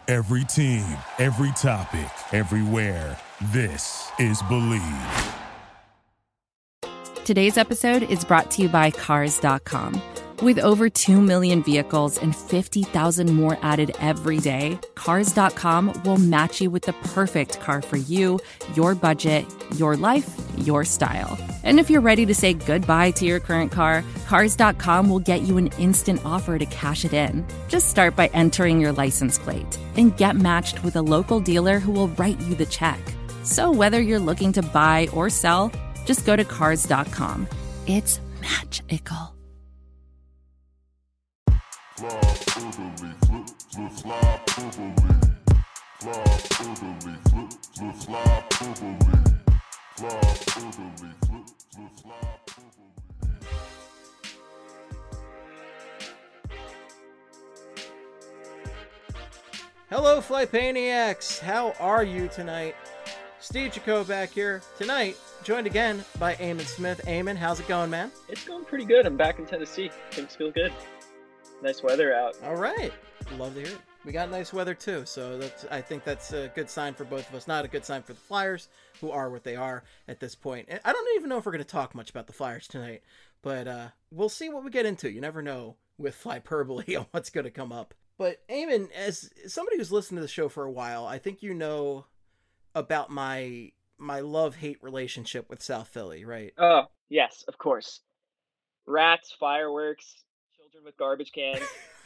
Every team, every topic, everywhere. This is Believe. Today's episode is brought to you by Cars.com. With over 2 million vehicles and 50,000 more added every day, Cars.com will match you with the perfect car for you, your budget, your life, your style. And if you're ready to say goodbye to your current car, Cars.com will get you an instant offer to cash it in. Just start by entering your license plate and get matched with a local dealer who will write you the check. So whether you're looking to buy or sell, just go to Cars.com. It's magical. Hello, Flypaniacs! How are you tonight? Steve Jaco back here tonight, joined again by Eamon Smith. Eamon, how's it going, man? It's going pretty good. I'm back in Tennessee. Things feel good. Nice weather out. All right. Love to hear it. We got nice weather too, so I think that's a good sign for both of us. Not a good sign for the Flyers, who are what they are at this point. I don't even know if we're going to talk much about the Flyers tonight, but we'll see what we get into. You never know with Flyperbole on what's going to come up. But Eamon, as somebody who's listened to the show for a while, I think you know about my love-hate relationship with South Philly, right? Oh, yes, of course. Rats, fireworks, children with garbage cans.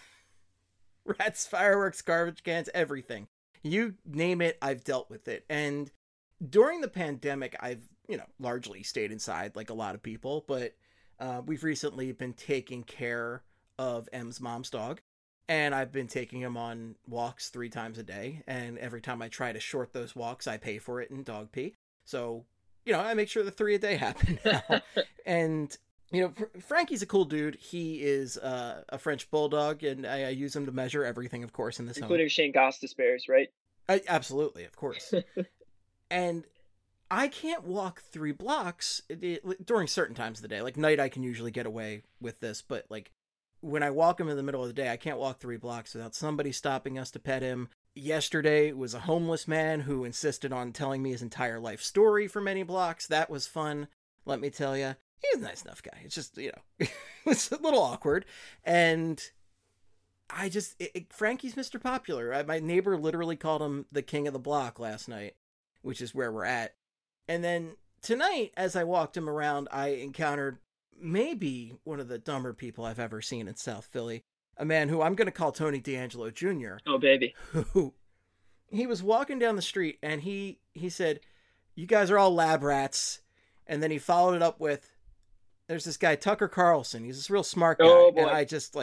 Rats, fireworks, garbage cans, everything. You name it, I've dealt with it. And during the pandemic, I've, largely stayed inside like a lot of people, but we've recently been taking care of M's mom's dog. And I've been taking him on walks 3 times a day. And every time I try to short those walks, I pay for it in dog pee. So, I make sure the 3 a day happen now. And, Frankie's a cool dude. He is a French bulldog, and I use him to measure everything, of course, in this including Shane Gostisbehere's, right? Absolutely, of course. And I can't walk 3 blocks during certain times of the day. Like night, I can usually get away with this, but when I walk him in the middle of the day, I can't walk 3 blocks without somebody stopping us to pet him. Yesterday was a homeless man who insisted on telling me his entire life story for many blocks. That was fun, let me tell you. He's a nice enough guy. It's just, it's a little awkward. And Frankie's Mr. Popular. My neighbor literally called him the king of the block last night, which is where we're at. And then tonight, as I walked him around, I encountered maybe one of the dumber people I've ever seen in South Philly. A man who I'm going to call Tony D'Angelo Jr. Oh, baby. Who he was walking down the street and he said, "You guys are all lab rats." And then he followed it up with, "There's this guy, Tucker Carlson. He's this real smart guy." Oh, boy. And I just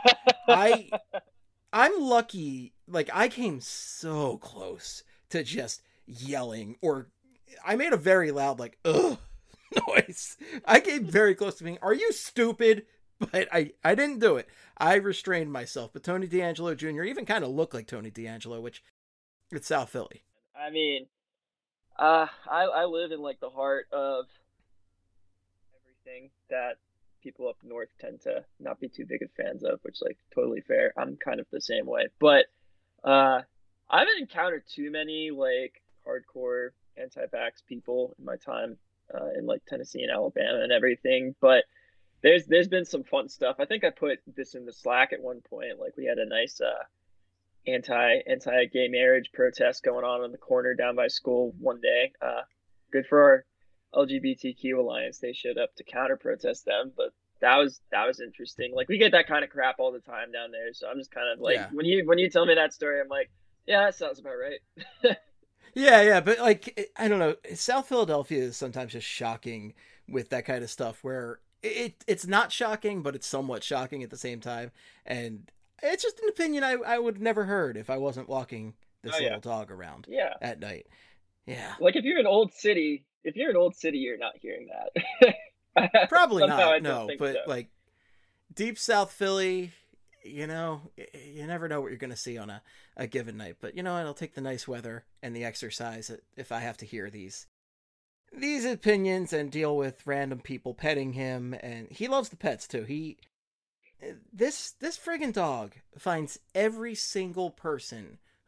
I'm lucky. I came so close to just yelling, or I made a very loud, ugh noise. I came very close to being, "Are you stupid?" But I didn't do it. I restrained myself. But Tony D'Angelo Jr. even kind of looked like Tony D'Angelo, which it's South Philly. I mean, I live in the heart of everything that people up north tend to not be too big of fans of, which totally fair. I'm kind of the same way. But I haven't encountered too many hardcore anti-vax people in my time in Tennessee and Alabama and everything, but there's been some fun stuff. I think I put this in the Slack at one point. We had a nice anti-gay marriage protest going on in the corner down by school one day. Good for our LGBTQ alliance. They showed up to counter protest them, but that was interesting. We get that kind of crap all the time down there, so I'm just kind of yeah. when you tell me that story, I'm like, yeah, that sounds about right. Yeah, but I don't know. South Philadelphia is sometimes just shocking with that kind of stuff where it's not shocking, but it's somewhat shocking at the same time. And it's just an opinion I would never heard if I wasn't walking this little dog around at night. Yeah. If you're an old city, you're not hearing that. Probably not, no. But so. Deep South Philly, you never know what you're going to see on a given night. But I'll take the nice weather and the exercise if I have to hear these opinions and deal with random people petting him. And he loves the pets too. This friggin' dog finds every single person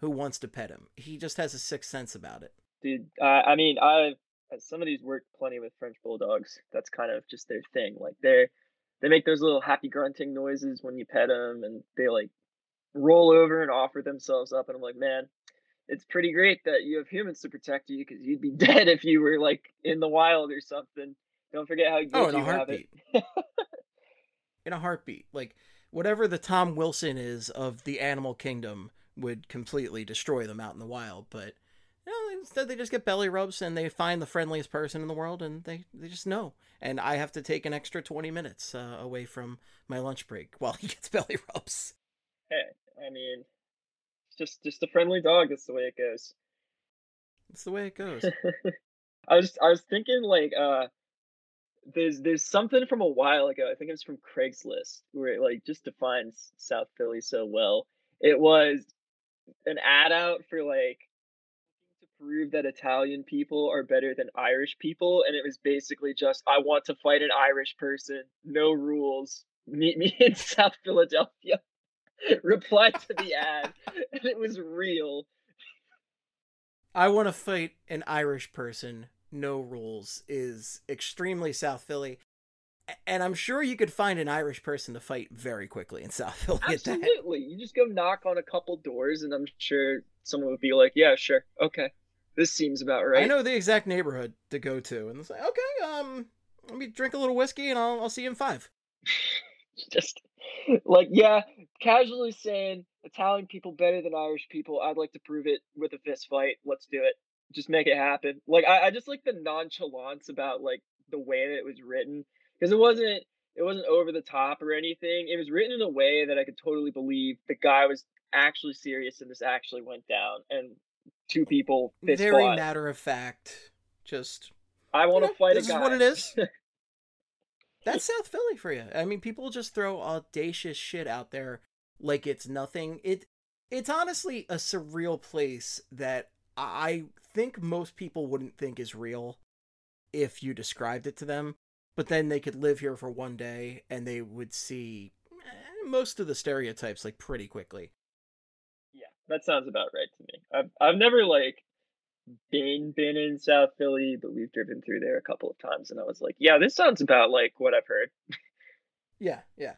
who wants to pet him. He just has a sixth sense about it. Dude, I mean, I've some of these worked plenty with French bulldogs. That's kind of just their thing. Like they make those little happy grunting noises when you pet them, and they like roll over and offer themselves up. And I'm like, man, it's pretty great that you have humans to protect you, because you'd be dead if you were like in the wild or something. Don't forget how good In a you have it. heartbeat. In a heartbeat. Like, whatever the Tom Wilson is of the animal kingdom would completely destroy them out in the wild. But, instead they just get belly rubs and they find the friendliest person in the world, and they just know. And I have to take an extra 20 minutes away from my lunch break while he gets belly rubs. Hey, I mean, it's just a friendly dog. That's the way it goes. That's the way it goes. I was thinking like there's something from a while ago. I think it was from Craigslist where it like just defines South Philly so well. It was an ad out for like to prove that Italian people are better than Irish people, and it was basically just, I want to fight an Irish person, no rules. Meet me in South Philadelphia. Reply to the ad, and it was real. I want to fight an Irish person, no rules, is extremely South Philly. And I'm sure you could find an Irish person to fight very quickly in South Philly. Absolutely. You just go knock on a couple doors, and I'm sure someone would be like, yeah, sure. Okay. This seems about right. I know the exact neighborhood to go to. And it's like, okay, let me drink a little whiskey and I'll see you in 5. Just like, yeah, casually saying Italian people better than Irish people. I'd like to prove it with a fist fight. Let's do it. Just make it happen. Like, I just like the nonchalance about like the way that it was written, because it wasn't over the top or anything. It was written in a way that I could totally believe the guy was actually serious and this actually went down, and two people fist very fought. matter of fact. Just, I want to fight a guy. This is what it is. That's South Philly for you. I mean, people just throw audacious shit out there like it's nothing. It's honestly a surreal place that I think most people wouldn't think is real if you described it to them. But then they could live here for one day and they would see most of the stereotypes like pretty quickly. Yeah, that sounds about right to me. I've never like been in South Philly, but we've driven through there a couple of times, and I was like, yeah, this sounds about like what I've heard. Yeah.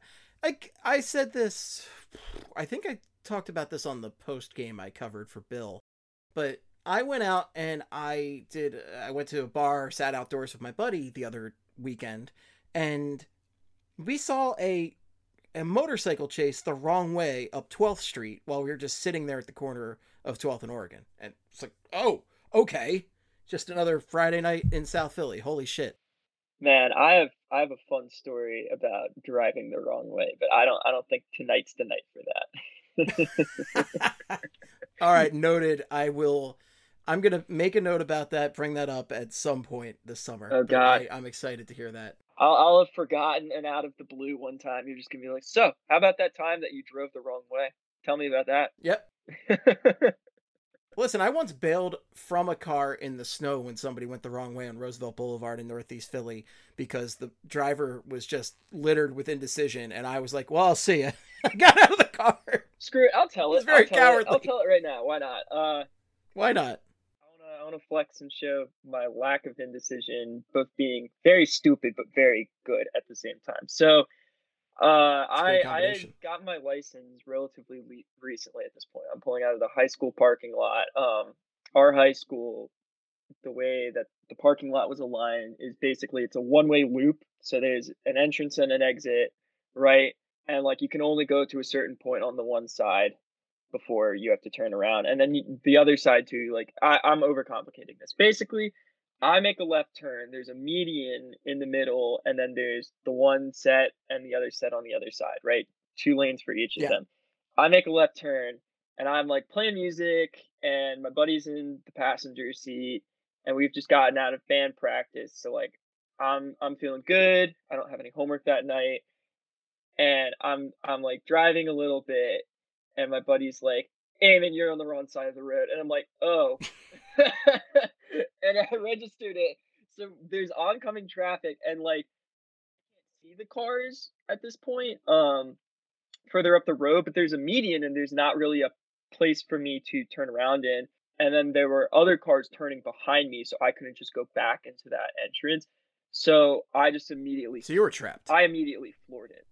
I said this, I think I talked about this on the post game I covered for Bill, but I went out and I went to a bar, sat outdoors with my buddy the other weekend, and we saw a motorcycle chase the wrong way up 12th Street while we were just sitting there at the corner of 12th and Oregon. And it's like, oh, okay. Just another Friday night in South Philly. Holy shit. Man, I have a fun story about driving the wrong way, but I don't think tonight's the night for that. All right, noted. I'm going to make a note about that, bring that up at some point this summer. Oh, God. I'm excited to hear that. I'll have forgotten, and out of the blue one time, you're just going to be like, so, how about that time that you drove the wrong way? Tell me about that. Yep. Listen, I once bailed from a car in the snow when somebody went the wrong way on Roosevelt Boulevard in Northeast Philly because the driver was just littered with indecision, and I was like, well, I'll see ya. I got out of the car. Screw it. I'll tell it. It's very cowardly. I'll tell it right now. Why not? Why not? I want to flex and show my lack of indecision, both being very stupid but very good at the same time. So, I had gotten my license relatively recently at this point. I'm pulling out of the high school parking lot. Our high school, the way that the parking lot was aligned is basically it's a one-way loop. So there's an entrance and an exit, right? And like you can only go to a certain point on the one side before you have to turn around. And then the other side too, like I'm overcomplicating this. Basically, I make a left turn, there's a median in the middle, and then there's the one set and the other set on the other side, right? 2 lanes for each of them. I make a left turn, and I'm like playing music, and my buddy's in the passenger seat, and we've just gotten out of band practice. So like I'm feeling good. I don't have any homework that night. And I'm like driving a little bit, and my buddy's like, Eamon, you're on the wrong side of the road. And I'm like, oh. And I registered it. So there's oncoming traffic, and like I can't see the cars at this point further up the road, but there's a median and there's not really a place for me to turn around in. And then there were other cars turning behind me, so I couldn't just go back into that entrance. So I just immediately So you were trapped. I immediately floored it.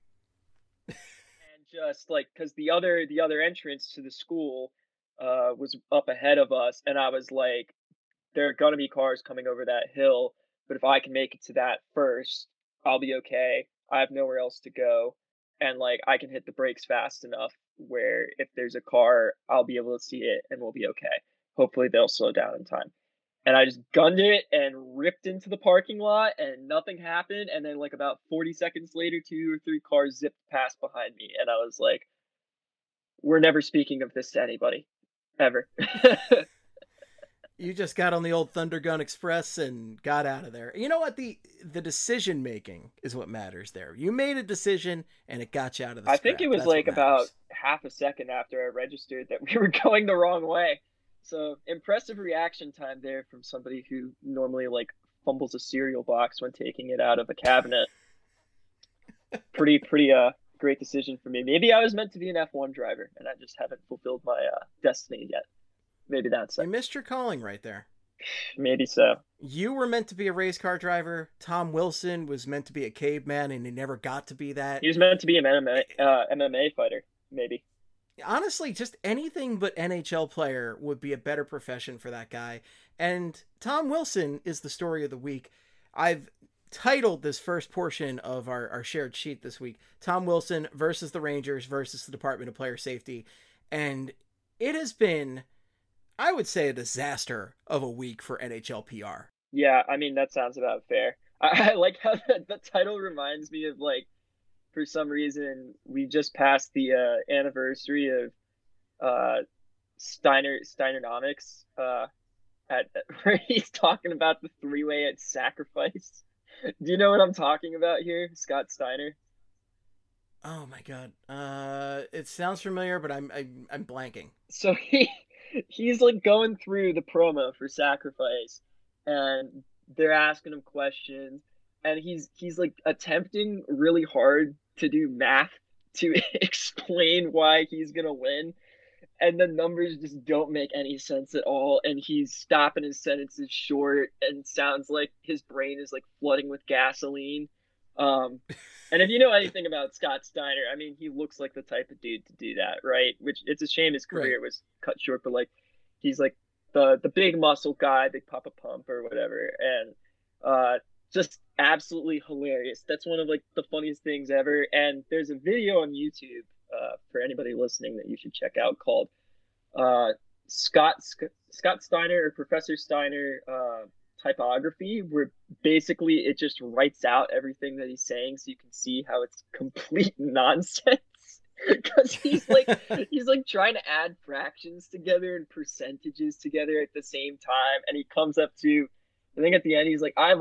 And just like, because the other entrance to the school was up ahead of us, and I was like, there are gonna be cars coming over that hill, but if I can make it to that first, I'll be okay. I have nowhere else to go, and like I can hit the brakes fast enough where if there's a car, I'll be able to see it and we'll be okay. Hopefully they'll slow down in time. And I just gunned it and ripped into the parking lot and nothing happened. And then like about 40 seconds later, 2 or 3 cars zipped past behind me. And I was like, we're never speaking of this to anybody, ever. You just got on the old Thunder Gun Express and got out of there. You know what? The decision making is what matters there. You made a decision and it got you out of the I scrap. think it was That's like what about matters. half a second after I registered that we were going the wrong way. So impressive reaction time there from somebody who normally like fumbles a cereal box when taking it out of a cabinet. Pretty great decision for me. Maybe I was meant to be an F1 driver and I just haven't fulfilled my destiny yet. Maybe that's You it. missed your calling right there. Maybe so. You were meant to be a race car driver. Tom Wilson was meant to be a caveman, and he never got to be that. He was meant to be an MMA fighter, maybe. Honestly, just anything but NHL player would be a better profession for that guy. And Tom Wilson is the story of the week. I've titled this first portion of our shared sheet this week, Tom Wilson versus the Rangers versus the Department of Player Safety. And it has been, I would say, a disaster of a week for NHL PR. Yeah, I mean, that sounds about fair. I like how the title reminds me of, like, for some reason, we just passed the anniversary of Steinernomics at where he's talking about the 3-way at Sacrifice. Do you know what I'm talking about here, Scott Steiner? Oh my god. It sounds familiar, but I'm blanking. So he's like going through the promo for Sacrifice, and they're asking him questions, and he's like attempting really hard to do math to explain why he's gonna win, and the numbers just don't make any sense at all, and he's stopping his sentences short and sounds like his brain is like flooding with gasoline. And if you know anything about Scott Steiner, I mean, he looks like the type of dude to do that, right? Which it's a shame his career was cut short, but like he's like the big muscle guy, big Papa Pump or whatever, and just absolutely hilarious. That's one of like the funniest things ever. And there's a video on YouTube for anybody listening that you should check out called Scott Steiner or Professor Steiner typography, where basically it just writes out everything that he's saying so you can see how it's complete nonsense. Because he's like trying to add fractions together and percentages together at the same time, and he comes up to, I think at the end he's like, I have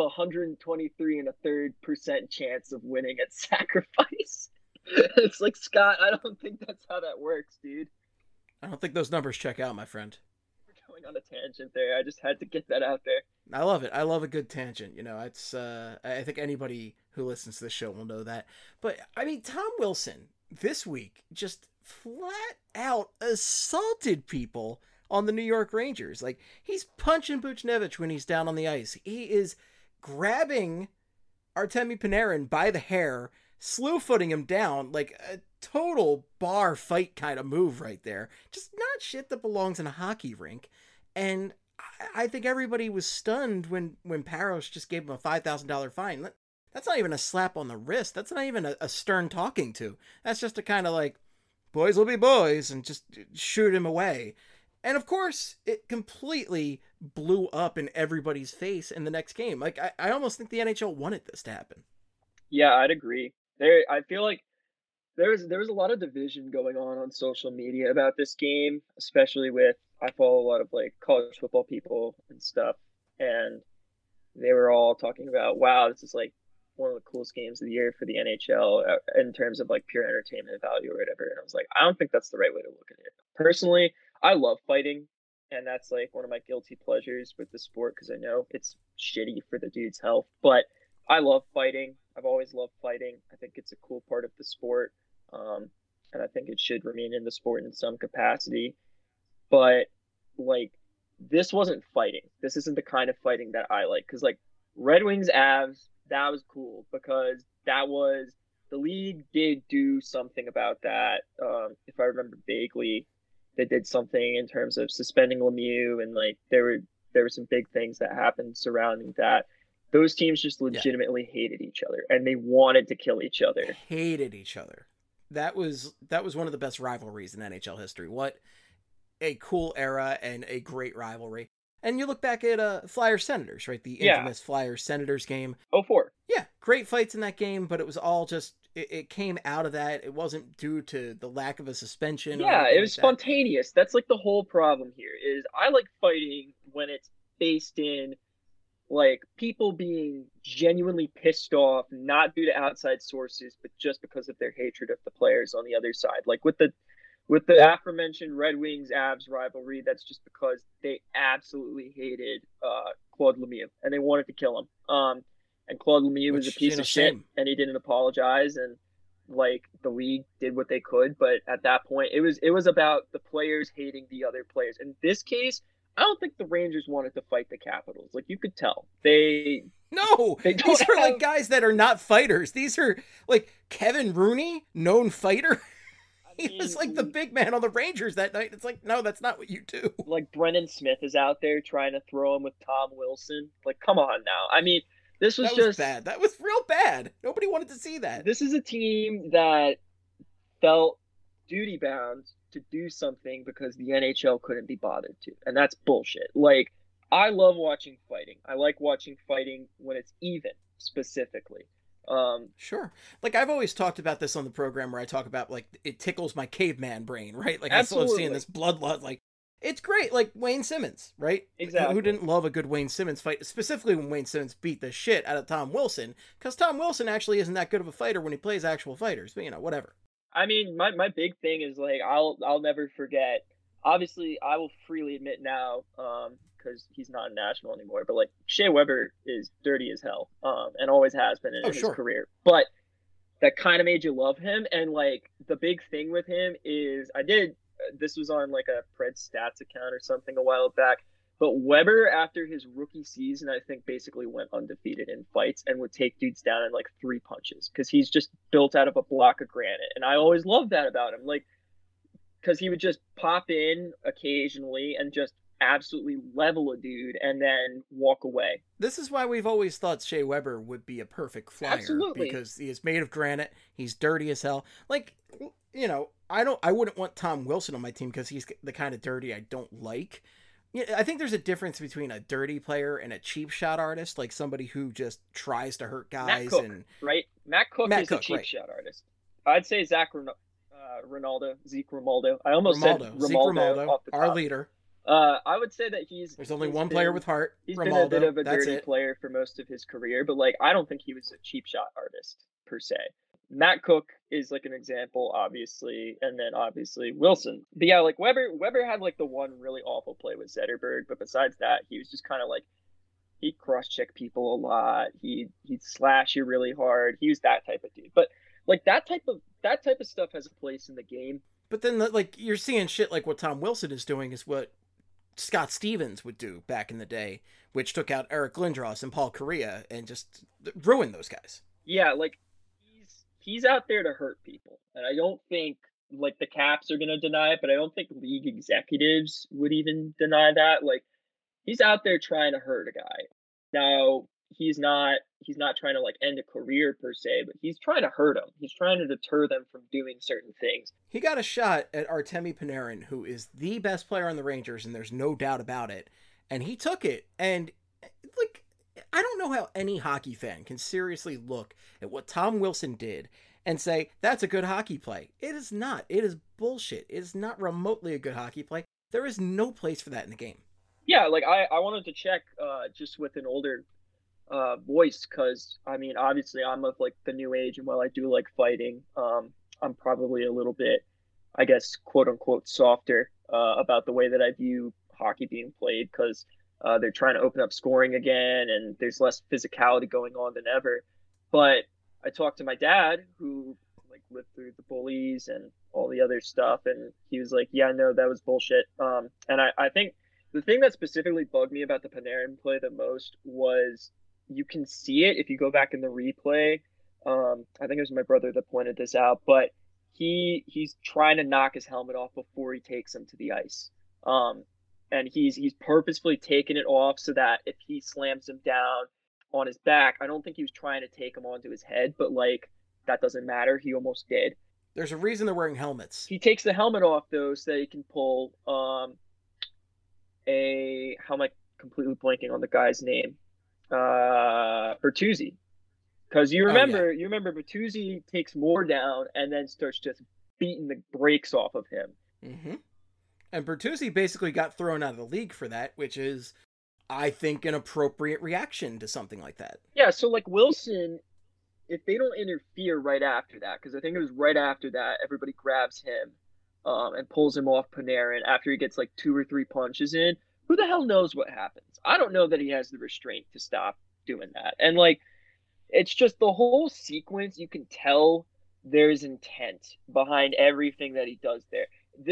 123.33% chance of winning at Sacrifice. It's like, Scott, I don't think that's how that works, dude. I don't think those numbers check out, my friend. We're going on a tangent there. I just had to get that out there. I love it. I love a good tangent. You know, it's I think anybody who listens to this show will know that. But I mean, Tom Wilson this week just flat out assaulted people on the New York Rangers. Like, he's punching Buchnevich when he's down on the ice. He is grabbing Artemi Panarin by the hair, slew-footing him down, like a total bar fight kind of move right there. Just not shit that belongs in a hockey rink. And I think everybody was stunned when Parros just gave him a $5,000 fine. That's not even a slap on the wrist. That's not even a stern talking to. That's just a kind of like, boys will be boys, and just shoot him away. And of course, it completely blew up in everybody's face in the next game. Like, I almost think the NHL wanted this to happen. Yeah, I'd agree. I feel like there was a lot of division going on social media about this game, especially with, I follow a lot of like college football people and stuff, and they were all talking about, wow, this is like one of the coolest games of the year for the NHL in terms of like pure entertainment value or whatever. And I was like, I don't think that's the right way to look at it. Personally, I love fighting, and that's like one of my guilty pleasures with the sport because I know it's shitty for the dude's health, but I love fighting. I've always loved fighting. I think it's a cool part of the sport. and I think it should remain in the sport in some capacity. But like, this wasn't fighting. This isn't the kind of fighting that I like. Because like Red Wings Avs, that was cool because that was the league did do something about that. If I remember vaguely, they did something in terms of suspending Lemieux, and like there were some big things that happened surrounding that. Those teams just legitimately hated each other, and they wanted to kill each other. Hated each other. That was one of the best rivalries in NHL history. What a cool era and a great rivalry. And you look back at Flyers Senators, right? The infamous Flyers Senators game. 04. Yeah, great fights in that game, but it was all just it came out of that. It wasn't due to the lack of a suspension. Yeah, it was spontaneous. That's like the whole problem here is I like fighting when it's based in like people being genuinely pissed off, not due to outside sources, but just because of their hatred of the players on the other side. Like with the aforementioned Red Wings Avs rivalry, that's just because they absolutely hated Claude Lemieux and they wanted to kill him. And Claude Lemieux was a piece of shit, and he didn't apologize, and like the league did what they could, but at that point it was about the players hating the other players. In this case, I don't think the Rangers wanted to fight the Capitals. Like you could tell. These are like guys that are not fighters. These are like Kevin Rooney, known fighter. He was like the big man on the Rangers that night. It's like, no, that's not what you do. Like Brendan Smith is out there trying to throw him with Tom Wilson. Like, come on now. I mean, this was just bad. That was real bad. Nobody wanted to see that. This is a team that felt duty bound to do something because the NHL couldn't be bothered to. And that's bullshit. Like, I love watching fighting. I like watching fighting when it's even, specifically. Sure. Like I've always talked about this on the program where I talk about like it tickles my caveman brain, right? Like absolutely. I still have seen this bloodlust. Like it's great. Like Wayne Simmons, right? Exactly. Who didn't love a good Wayne Simmons fight, specifically when Wayne Simmons beat the shit out of Tom Wilson, because Tom Wilson actually isn't that good of a fighter when he plays actual fighters, but you know, whatever. I mean, my big thing is like I'll never forget. Obviously, I will freely admit now, because he's not in National anymore, but like Shea Weber is dirty as hell, and always has been in his career. But that kind of made you love him. And like the big thing with him is this was on like a Pred Stats account or something a while back. But Weber, after his rookie season, I think basically went undefeated in fights and would take dudes down in like 3 punches because he's just built out of a block of granite. And I always loved that about him. Like, because he would just pop in occasionally and just absolutely level a dude and then walk away. This is why we've always thought Shea Weber would be a perfect flyer. Absolutely. Because he is made of granite. He's dirty as hell. Like, you know, I wouldn't want Tom Wilson on my team because he's the kind of dirty I don't like. Yeah, I think there's a difference between a dirty player and a cheap shot artist, like somebody who just tries to hurt guys. Matt Cook, right? Matt Cook is a cheap shot artist. I'd say Zeke Romaldo. I almost said Romaldo off the top. Our leader. I would say that there's only one player with heart. He's been a bit of a dirty player for most of his career, but like I don't think he was a cheap shot artist per se. Matt Cook is like an example, obviously, and then obviously Wilson. But yeah, like Weber had like the one really awful play with Zetterberg, but besides that, he was just kind of like he'd cross-check people a lot. He'd slash you really hard. He was that type of dude. But like that type of stuff has a place in the game. But then like you're seeing shit like what Tom Wilson is doing is what Scott Stevens would do back in the day, which took out Eric Lindros and Paul Kariya and just ruined those guys. Yeah, like he's out there to hurt people. And I don't think like the Caps are going to deny it, but I don't think league executives would even deny that. Like he's out there trying to hurt a guy. Now, he's not trying to like end a career per se, but he's trying to hurt him. He's trying to deter them from doing certain things. He got a shot at Artemi Panarin, who is the best player on the Rangers, and there's no doubt about it. And he took it. And like, I don't know how any hockey fan can seriously look at what Tom Wilson did and say, that's a good hockey play. It is not. It is bullshit. It is not remotely a good hockey play. There is no place for that in the game. Yeah, like I wanted to check just with an older voice, because I mean, obviously I'm of like the new age, and while I do like fighting, I'm probably a little bit, I guess, quote unquote, softer about the way that I view hockey being played, because they're trying to open up scoring again, and there's less physicality going on than ever. But I talked to my dad, who like lived through the bullies and all the other stuff. And he was like, yeah, no, that was bullshit. And I think the thing that specifically bugged me about the Panarin play the most was you can see it if you go back in the replay. I think it was my brother that pointed this out, but he's trying to knock his helmet off before he takes him to the ice. And he's purposefully taking it off so that if he slams him down on his back, I don't think he was trying to take him onto his head, but like that doesn't matter. He almost did. There's a reason they're wearing helmets. He takes the helmet off though, so that he can pull how am I completely blanking on the guy's name? Bertuzzi. Because you remember Bertuzzi takes Moore down and then starts just beating the brakes off of him. Mm-hmm. And Bertuzzi basically got thrown out of the league for that, which is, I think, an appropriate reaction to something like that. Yeah, so like Wilson, if they don't interfere right after that, because I think it was right after that, everybody grabs him and pulls him off Panarin after he gets like 2 or 3 punches in. Who the hell knows what happens? I don't know that he has the restraint to stop doing that. And like, it's just the whole sequence. You can tell there's intent behind everything that he does there.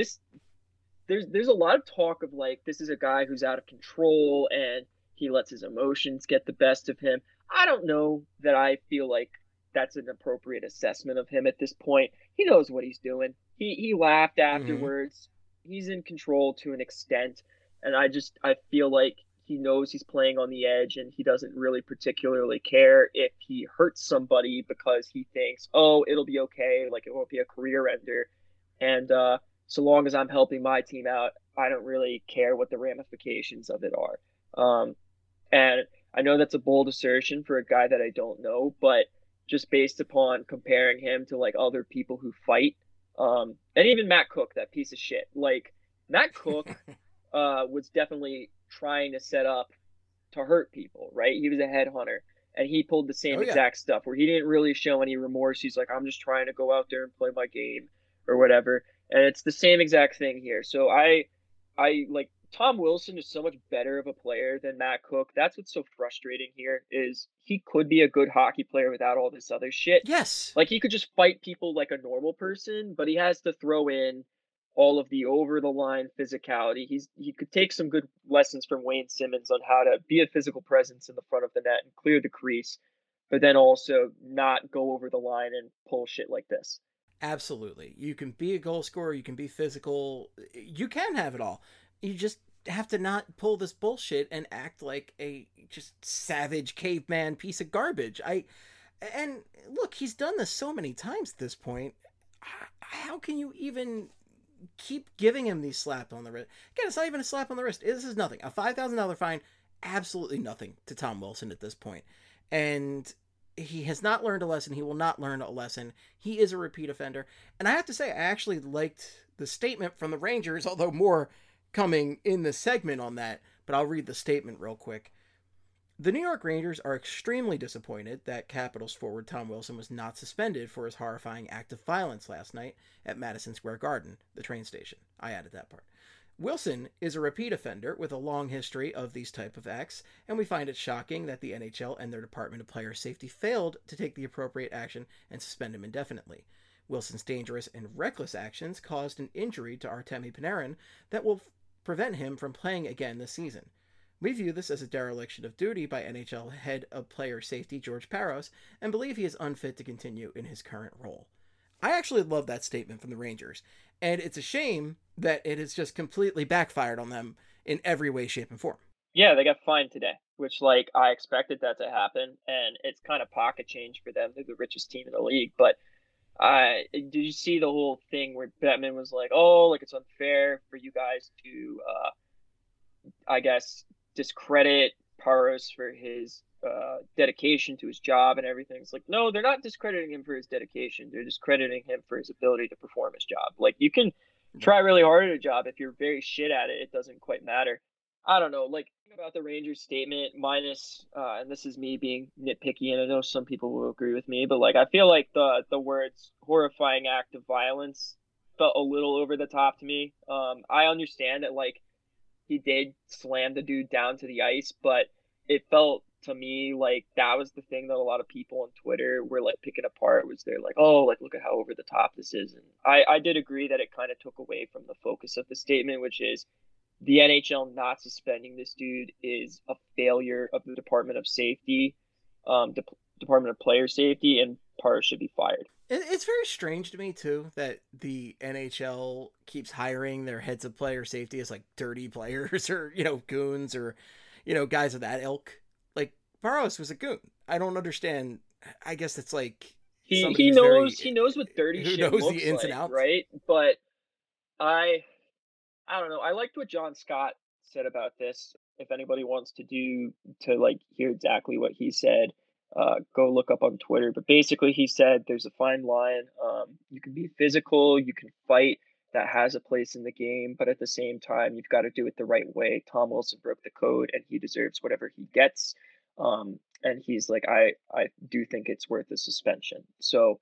There's a lot of talk of like, this is a guy who's out of control and he lets his emotions get the best of him. I don't know that I feel like that's an appropriate assessment of him at this point. He knows what he's doing. He laughed afterwards. Mm-hmm. He's in control to an extent. And I feel like he knows he's playing on the edge and he doesn't really particularly care if he hurts somebody because he thinks, oh, it'll be okay. Like it won't be a career ender. And so long as I'm helping my team out, I don't really care what the ramifications of it are. And I know that's a bold assertion for a guy that I don't know, but just based upon comparing him to like other people who fight, and even Matt Cook, that piece of shit, like Matt Cook was definitely trying to set up to hurt people, right? He was a headhunter and he pulled the same exact stuff where he didn't really show any remorse. He's like, I'm just trying to go out there and play my game or whatever. And it's the same exact thing here. So I like Tom Wilson is so much better of a player than Matt Cook. That's what's so frustrating here is he could be a good hockey player without all this other shit. Yes. Like he could just fight people like a normal person, but he has to throw in all of the over the line physicality. He could take some good lessons from Wayne Simmons on how to be a physical presence in the front of the net and clear the crease, but then also not go over the line and pull shit like this. Absolutely. You can be a goal scorer, you can be physical, you can have it all. You just have to not pull this bullshit and act like a just savage caveman piece of garbage. And look, he's done this so many times at this point. How can you even keep giving him these slaps on the wrist? Again, it's not even a slap on the wrist. This is nothing. A $5,000 fine, absolutely nothing to Tom Wilson at this point. And he has not learned a lesson. He will not learn a lesson. He is a repeat offender. And I have to say, I actually liked the statement from the Rangers, although more coming in the segment on that, but I'll read the statement real quick. The New York Rangers are extremely disappointed that Capitals forward Tom Wilson was not suspended for his horrifying act of violence last night at Madison Square Garden, the train station. I added that part. Wilson is a repeat offender with a long history of these type of acts, and we find it shocking that the NHL and their Department of Player Safety failed to take the appropriate action and suspend him indefinitely. Wilson's dangerous and reckless actions caused an injury to Artemi Panarin that will prevent him from playing again this season. We view this as a dereliction of duty by NHL head of player safety George Parros and believe he is unfit to continue in his current role. I actually love that statement from the Rangers, and it's a shame that it has just completely backfired on them in every way, shape, and form. Yeah, they got fined today, which like I expected that to happen, and it's kind of pocket change for them. They're the richest team in the league, but did you see the whole thing where Bettman was like, oh, like it's unfair for you guys to, I guess, discredit Parros for his dedication to his job and everything. It's like, no, they're not discrediting him for his dedication. They're discrediting him for his ability to perform his job. Like, you can try really hard at a job. If you're very shit at it, it doesn't quite matter. I don't know. Like, about the Rangers statement, minus, and this is me being nitpicky, and I know some people will agree with me, but like, I feel like the words horrifying act of violence felt a little over the top to me. I understand that like he did slam the dude down to the ice, but it felt to me, like that was the thing that a lot of people on Twitter were like picking apart, was they're like, oh, like look at how over the top this is. And I did agree that it kind of took away from the focus of the statement, which is the NHL not suspending this dude is a failure of the Department of Safety, Department of Player Safety, and Parr should be fired. It's very strange to me too that the NHL keeps hiring their heads of player safety as like dirty players or goons or guys of that ilk. Like Barros was a goon. I don't understand. I guess it's like he knows what dirty shit knows looks the ins like, and outs, right? But I don't know. I liked what John Scott said about this. If anybody wants to like hear exactly what he said, go look up on Twitter. But basically, he said there's a fine line. You can be physical, you can fight. That has a place in the game, but at the same time, you've got to do it the right way. Tom Wilson broke the code, and he deserves whatever he gets. And he's like, I do think it's worth a suspension. So,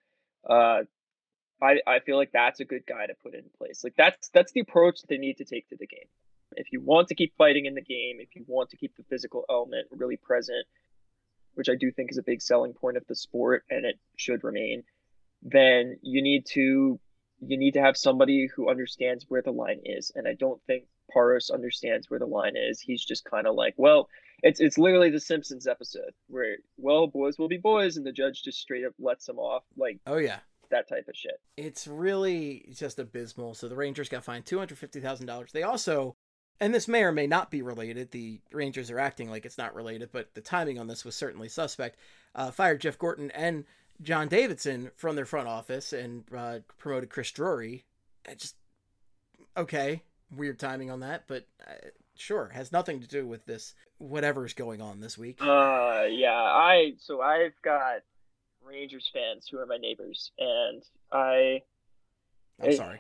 I feel like that's a good guy to put in place. Like that's the approach that they need to take to the game. If you want to keep fighting in the game, if you want to keep the physical element really present, which I do think is a big selling point of the sport and it should remain, then you need to have somebody who understands where the line is. And I don't think Parros understands where the line is. He's just kind of like, well, it's literally the Simpsons episode where, well, boys will be boys, and the judge just straight up lets them off. Like, oh yeah, that type of shit. It's really just abysmal. So the Rangers got fined $250,000. They also, and this may or may not be related, the Rangers are acting like it's not related, but the timing on this was certainly suspect, fired Jeff Gorton and John Davidson from their front office and promoted Chris Drury. Just, okay, weird timing on that, but sure, has nothing to do with this, whatever's going on this week. Yeah, I've got Rangers fans who are my neighbors, and I'm sorry.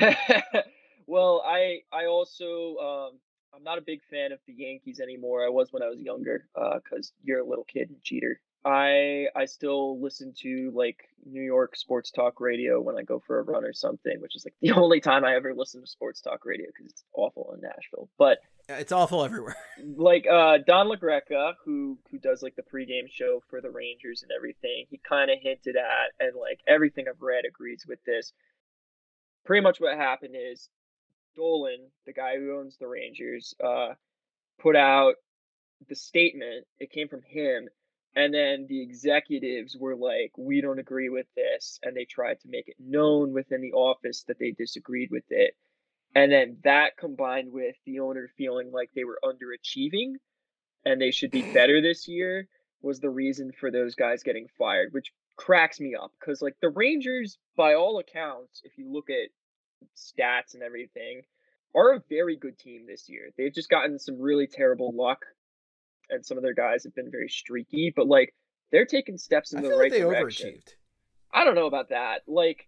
Well, I also I'm not a big fan of the Yankees anymore. I was when I was younger, because you're a little kid and cheater. I still listen to like New York sports talk radio when I go for a run or something, which is like the only time I ever listen to sports talk radio because it's awful in Nashville. But it's awful everywhere. Like Don LaGreca, who does like the pregame show for the Rangers and everything, he kind of hinted at, and like everything I've read agrees with this. Pretty much what happened is Dolan, the guy who owns the Rangers, put out the statement. It came from him. And then the executives were like, we don't agree with this. And they tried to make it known within the office that they disagreed with it. And then that combined with the owner feeling like they were underachieving and they should be better this year was the reason for those guys getting fired, which cracks me up. Because, like, the Rangers, by all accounts, if you look at stats and everything, are a very good team this year. They've just gotten some really terrible luck, and some of their guys have been very streaky, but like they're taking steps in the right direction. Overachieved. I don't know about that. Like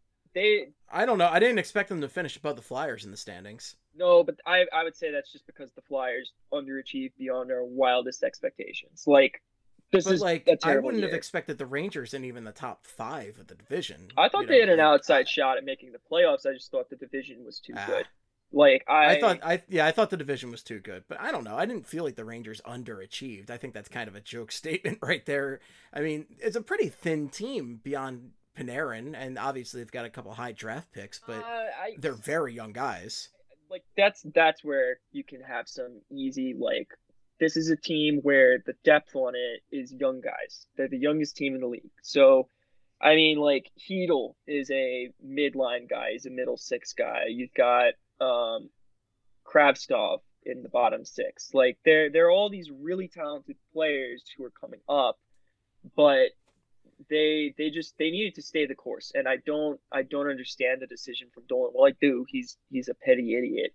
I don't know. I didn't expect them to finish above the Flyers in the standings. No, but I would say that's just because the Flyers underachieved beyond our wildest expectations. Like this is like a terrible I wouldn't year. have expected the Rangers in even the top 5 of the division. I thought they had an outside shot at making the playoffs. I just thought the division was too good. Like I thought the division was too good, but I don't know. I didn't feel like the Rangers underachieved. I think that's kind of a joke statement right there. I mean, it's a pretty thin team beyond Panarin, and obviously they've got a couple high draft picks, but they're very young guys. Like that's where you can have some easy like. This is a team where the depth on it is young guys. They're the youngest team in the league, so. I mean, like Hedl is a midline guy. He's a middle 6 guy. You've got Kravtsov in the bottom 6. Like there are all these really talented players who are coming up, but they needed to stay the course. And I don't understand the decision from Dolan. Well, I do. He's a petty idiot.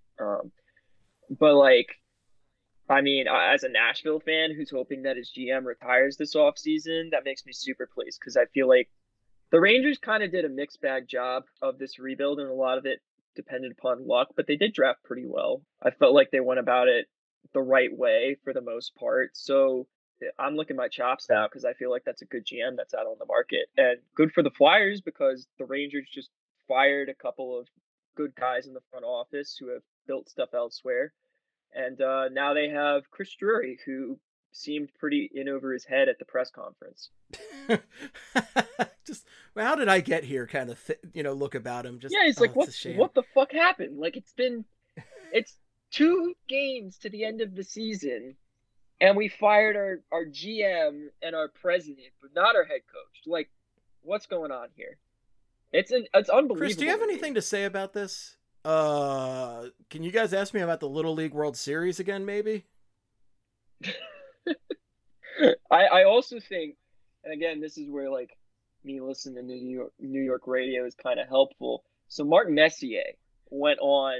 But like, I mean, as a Nashville fan who's hoping that his GM retires this offseason, that makes me super pleased because I feel like the Rangers kind of did a mixed bag job of this rebuild, and a lot of it depended upon luck, but they did draft pretty well. I felt like they went about it the right way for the most part. So I'm licking my chops now because I feel like that's a good GM that's out on the market. And good for the Flyers because the Rangers just fired a couple of good guys in the front office who have built stuff elsewhere. And now they have Chris Drury, who seemed pretty in over his head at the press conference. Just, well, how did I get here? Kind of, look about him. Just, Yeah, he's like, it's a shame. what the fuck happened? Like, it's 2 games to the end of the season, and we fired our GM and our president, but not our head coach. Like, what's going on here? It's unbelievable. Chris, do you have anything to say about this? Can you guys ask me about the Little League World Series again, maybe? I also think, and again, this is where like me listening to New York radio is kind of helpful. So Mark Messier went on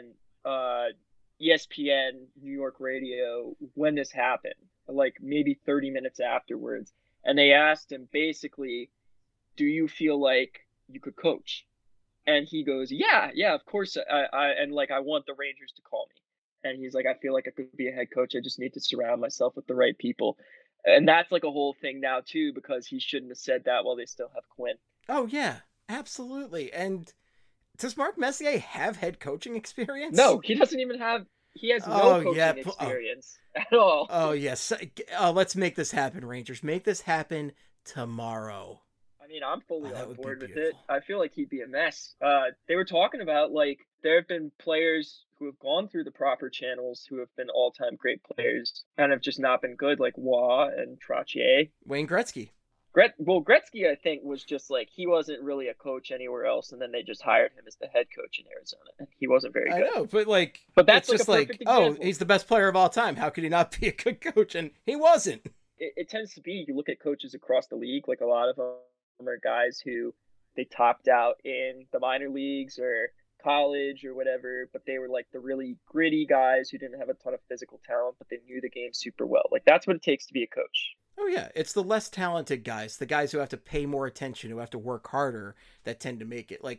ESPN New York radio when this happened, like maybe 30 minutes afterwards, and they asked him basically, do you feel like you could coach? And he goes, yeah, of course. I want the Rangers to call me. And he's like, I feel like I could be a head coach. I just need to surround myself with the right people. And that's like a whole thing now too, because he shouldn't have said that while they still have Quinn. Oh yeah, absolutely. And does Mark Messier have head coaching experience? No, he doesn't even have. He has no coaching experience at all. Oh yes. Let's make this happen, Rangers. Make this happen tomorrow. I mean, I'm fully on board with it. I feel like he'd be a mess. They were talking about, like, there have been players who have gone through the proper channels who have been all-time great players and have just not been good, like Waugh and Trottier. Wayne Gretzky. Gretzky, I think, was just like, he wasn't really a coach anywhere else, and then they just hired him as the head coach in Arizona, and he wasn't very good. I know, but that's just like, oh, he's the best player of all time. How could he not be a good coach? And he wasn't. It tends to be, you look at coaches across the league, like a lot of them are guys who they topped out in the minor leagues or college or whatever, but they were like the really gritty guys who didn't have a ton of physical talent, but they knew the game super well. Like, that's what it takes to be a coach. Oh yeah, it's the less talented guys, the guys who have to pay more attention, who have to work harder, that tend to make it. Like,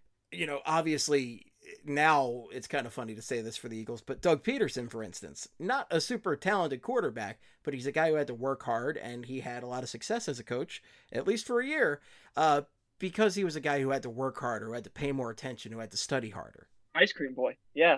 obviously now it's kind of funny to say this for the Eagles, but Doug Peterson, for instance, not a super talented quarterback, but he's a guy who had to work hard, and he had a lot of success as a coach, at least for a year, because he was a guy who had to work harder, who had to pay more attention, who had to study harder. Ice Cream Boy, yeah.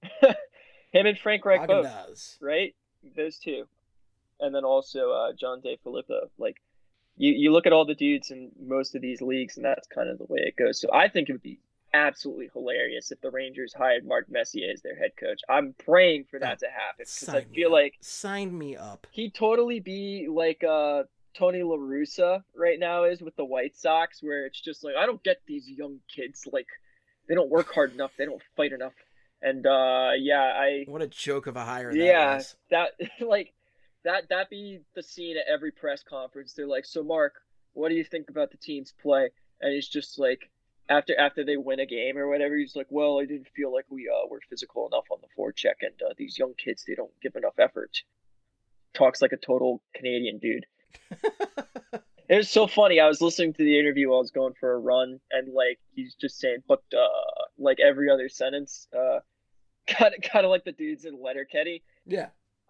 Him and Frank Reich both, right? Those two. And then also John DeFilippo. Like, you look at all the dudes in most of these leagues, and that's kind of the way it goes. So I think it would be absolutely hilarious if the Rangers hired Mark Messier as their head coach. I'm praying for that to happen, because I feel like sign me up. He'd totally be like Tony La Russa right now is with the White Sox, where it's just like, I don't get these young kids, like, they don't work hard enough, they don't fight enough. And what a joke of a hire that was. That be the scene at every press conference. They're like, so Mark, what do you think about the team's play? And he's just like, after they win a game or whatever, he's like, well, I didn't feel like we were physical enough on the forecheck, and these young kids, they don't give enough effort. Talks like a total Canadian dude. It was so funny. I was listening to the interview while I was going for a run, and like, he's just saying, but like every other sentence, kind of like the dudes in Letterkenny. Yeah.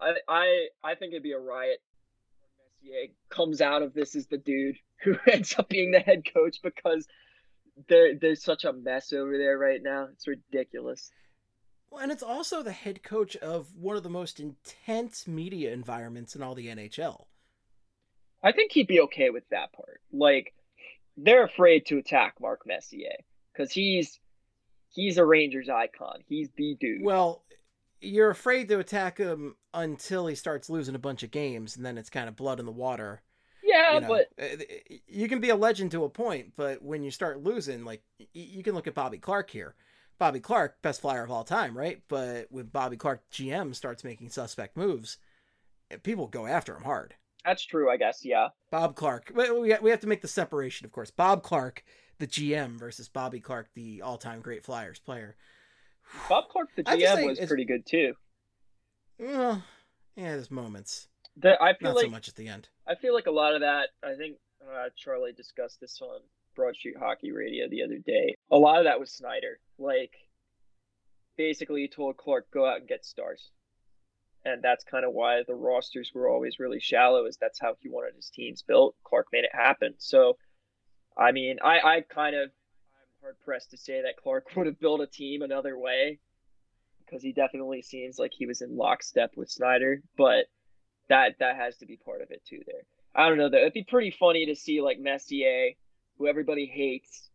I think it'd be a riot when Messier comes out of this as the dude who ends up being the head coach, because there's such a mess over there right now. It's ridiculous. Well, and it's also the head coach of one of the most intense media environments in all the NHL. I think he'd be okay with that part. Like, they're afraid to attack Mark Messier because he's a Rangers icon. He's the dude. Well, you're afraid to attack him until he starts losing a bunch of games, and then it's kind of blood in the water. Yeah, but you can be a legend to a point, but when you start losing, like, you can look at Bobby Clark here. Bobby Clark, best flyer of all time, right? But when Bobby Clark, GM, starts making suspect moves, people go after him hard. That's true, I guess, yeah. Bob Clark. We have to make the separation, of course. Bob Clark, the GM, versus Bobby Clark, the all-time great Flyers player. Bob Clark, the GM, was pretty good, too. Well, yeah, there's moments. I feel Not like, so much at the end. I feel like a lot of that, I think Charlie discussed this on Broad Street Hockey Radio the other day. A lot of that was Snyder. Like, basically he told Clark, go out and get stars. And that's kind of why the rosters were always really shallow, is that's how he wanted his teams built. Clark made it happen. So, I mean, I'm hard-pressed to say that Clark would have built a team another way, because he definitely seems like he was in lockstep with Snyder. But that has to be part of it too there. I don't know, though. It'd be pretty funny to see like Messier, who everybody hates,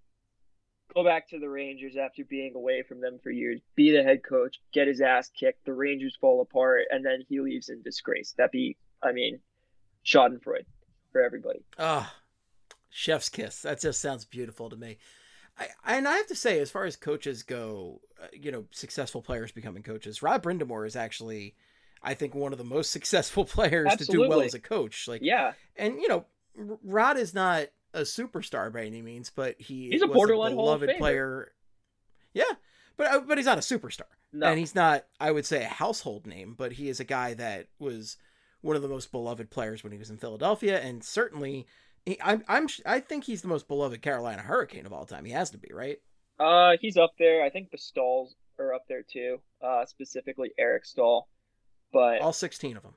go back to the Rangers after being away from them for years, be the head coach, get his ass kicked, the Rangers fall apart, and then he leaves in disgrace. That'd be, schadenfreude for everybody. Chef's kiss. That just sounds beautiful to me. I have to say, as far as coaches go, successful players becoming coaches, Rod Brind'Amour is actually, I think, one of the most successful players Absolutely. to do well as a coach. Yeah. And, Rod is not a superstar by any means, but he's a borderline Hall of beloved Famer. Player. Yeah, but he's not a superstar. No. And he's not, I would say, a household name, but he is a guy that was one of the most beloved players when he was in Philadelphia, and certainly, I think he's the most beloved Carolina Hurricane of all time. He has to be, right? He's up there. I think the Stalls are up there too, specifically Eric Stahl. But all 16 of them.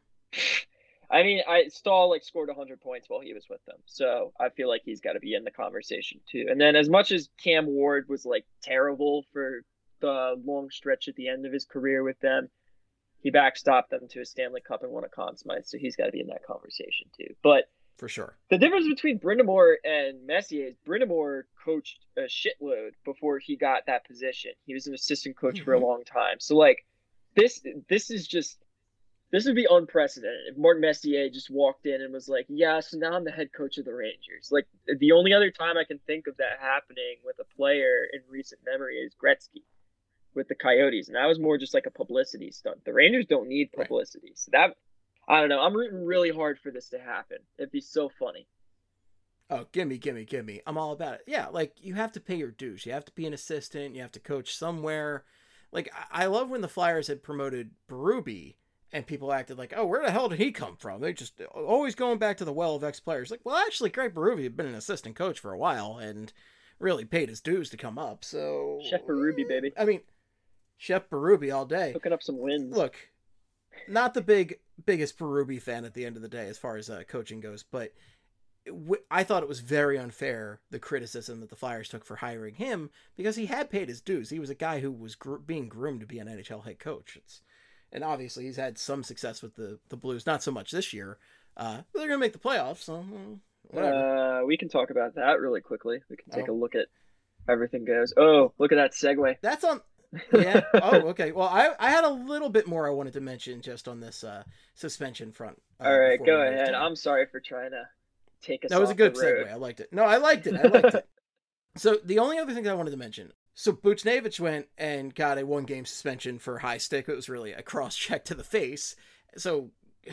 Stahl scored 100 points while he was with them, so I feel like he's got to be in the conversation too. And then, as much as Cam Ward was terrible for the long stretch at the end of his career with them, he backstopped them to a Stanley Cup and won a Conn Smythe, so he's got to be in that conversation too. But for sure, the difference between Brind'Amour and Messier is Brind'Amour coached a shitload before he got that position. He was an assistant coach for a long time, so this would be unprecedented if Martin Messier just walked in and was like, yeah, so now I'm the head coach of the Rangers. The only other time I can think of that happening with a player in recent memory is Gretzky with the Coyotes. And that was more just a publicity stunt. The Rangers don't need publicity. Right. So that, I don't know. I'm rooting really hard for this to happen. It'd be so funny. Oh, gimme. I'm all about it. Yeah, you have to pay your dues. You have to be an assistant. You have to coach somewhere. I love when the Flyers had promoted Berube, and people acted like, oh, where the hell did he come from? They just always going back to the well of ex-players. Well, actually, Craig Berube had been an assistant coach for a while and really paid his dues to come up. So Chef Berube, baby. Chef Berube all day. Hooking up some wins. Look, not the biggest Berube fan at the end of the day as far as coaching goes, but I thought it was very unfair, the criticism that the Flyers took for hiring him, because he had paid his dues. He was a guy who was being groomed to be an NHL head coach. And obviously he's had some success with the Blues, not so much this year. But they're going to make the playoffs, so whatever. We can talk about that really quickly. We can take a look at how everything goes. Oh, look at that segue. That's on... Yeah. Oh, okay. Well, I had a little bit more I wanted to mention just on this suspension front. All right, go ahead. I'm sorry for trying to take us off the road. That was a good segue. I liked it. No, I liked it. So the only other thing I wanted to mention, so Buchnevich went and got a 1-game suspension for high stick. It was really a cross-check to the face. So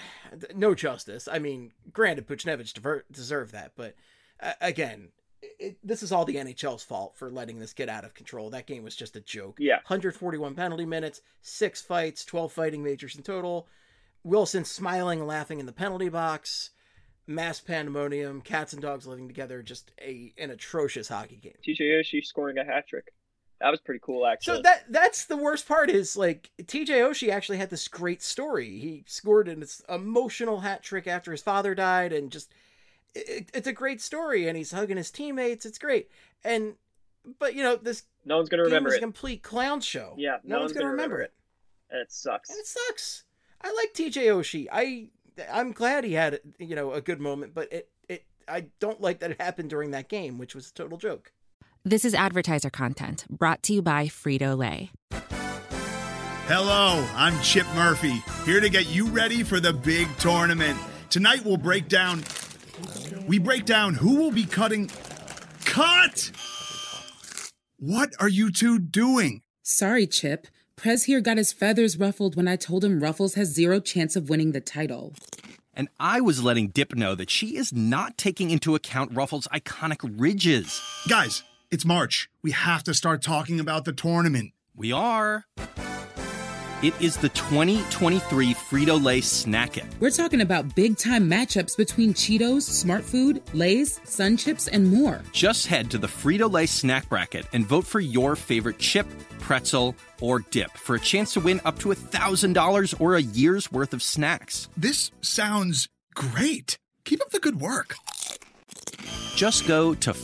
no justice. Granted, Buchnevich deserved that, but again, this is all the NHL's fault for letting this get out of control. That game was just a joke. Yeah. 141 penalty minutes, 6 fights, 12 fighting majors in total. Wilson smiling and laughing in the penalty box. Mass pandemonium, cats and dogs living together. Just an atrocious hockey game. TJ Oshie scoring a hat trick. That was pretty cool, actually. So that's the worst part is TJ Oshie actually had this great story. He scored an emotional hat trick after his father died, and just it's a great story, and he's hugging his teammates. It's great. But this no one's gonna remember it. It's a complete clown show. Yeah, no one's gonna remember it. And it sucks. I like TJ Oshie. I'm glad he had a good moment, but I don't like that it happened during that game, which was a total joke. This is advertiser content brought to you by Frito-Lay. Hello, I'm Chip Murphy, here to get you ready for the big tournament. Tonight we'll break down who will be cutting... Cut! What are you two doing? Sorry, Chip. Prez here got his feathers ruffled when I told him Ruffles has 0 chance of winning the title. And I was letting Dip know that she is not taking into account Ruffles' iconic ridges. Guys, it's March. We have to start talking about the tournament. We are. It is the 2023 Frito-Lay Snack It. We're talking about big-time matchups between Cheetos, Smart Food, Lay's, Sun Chips, and more. Just head to the Frito-Lay Snack Bracket and vote for your favorite chip, pretzel, or dip for a chance to win up to $1,000 or a year's worth of snacks. This sounds great. Keep up the good work. Just go to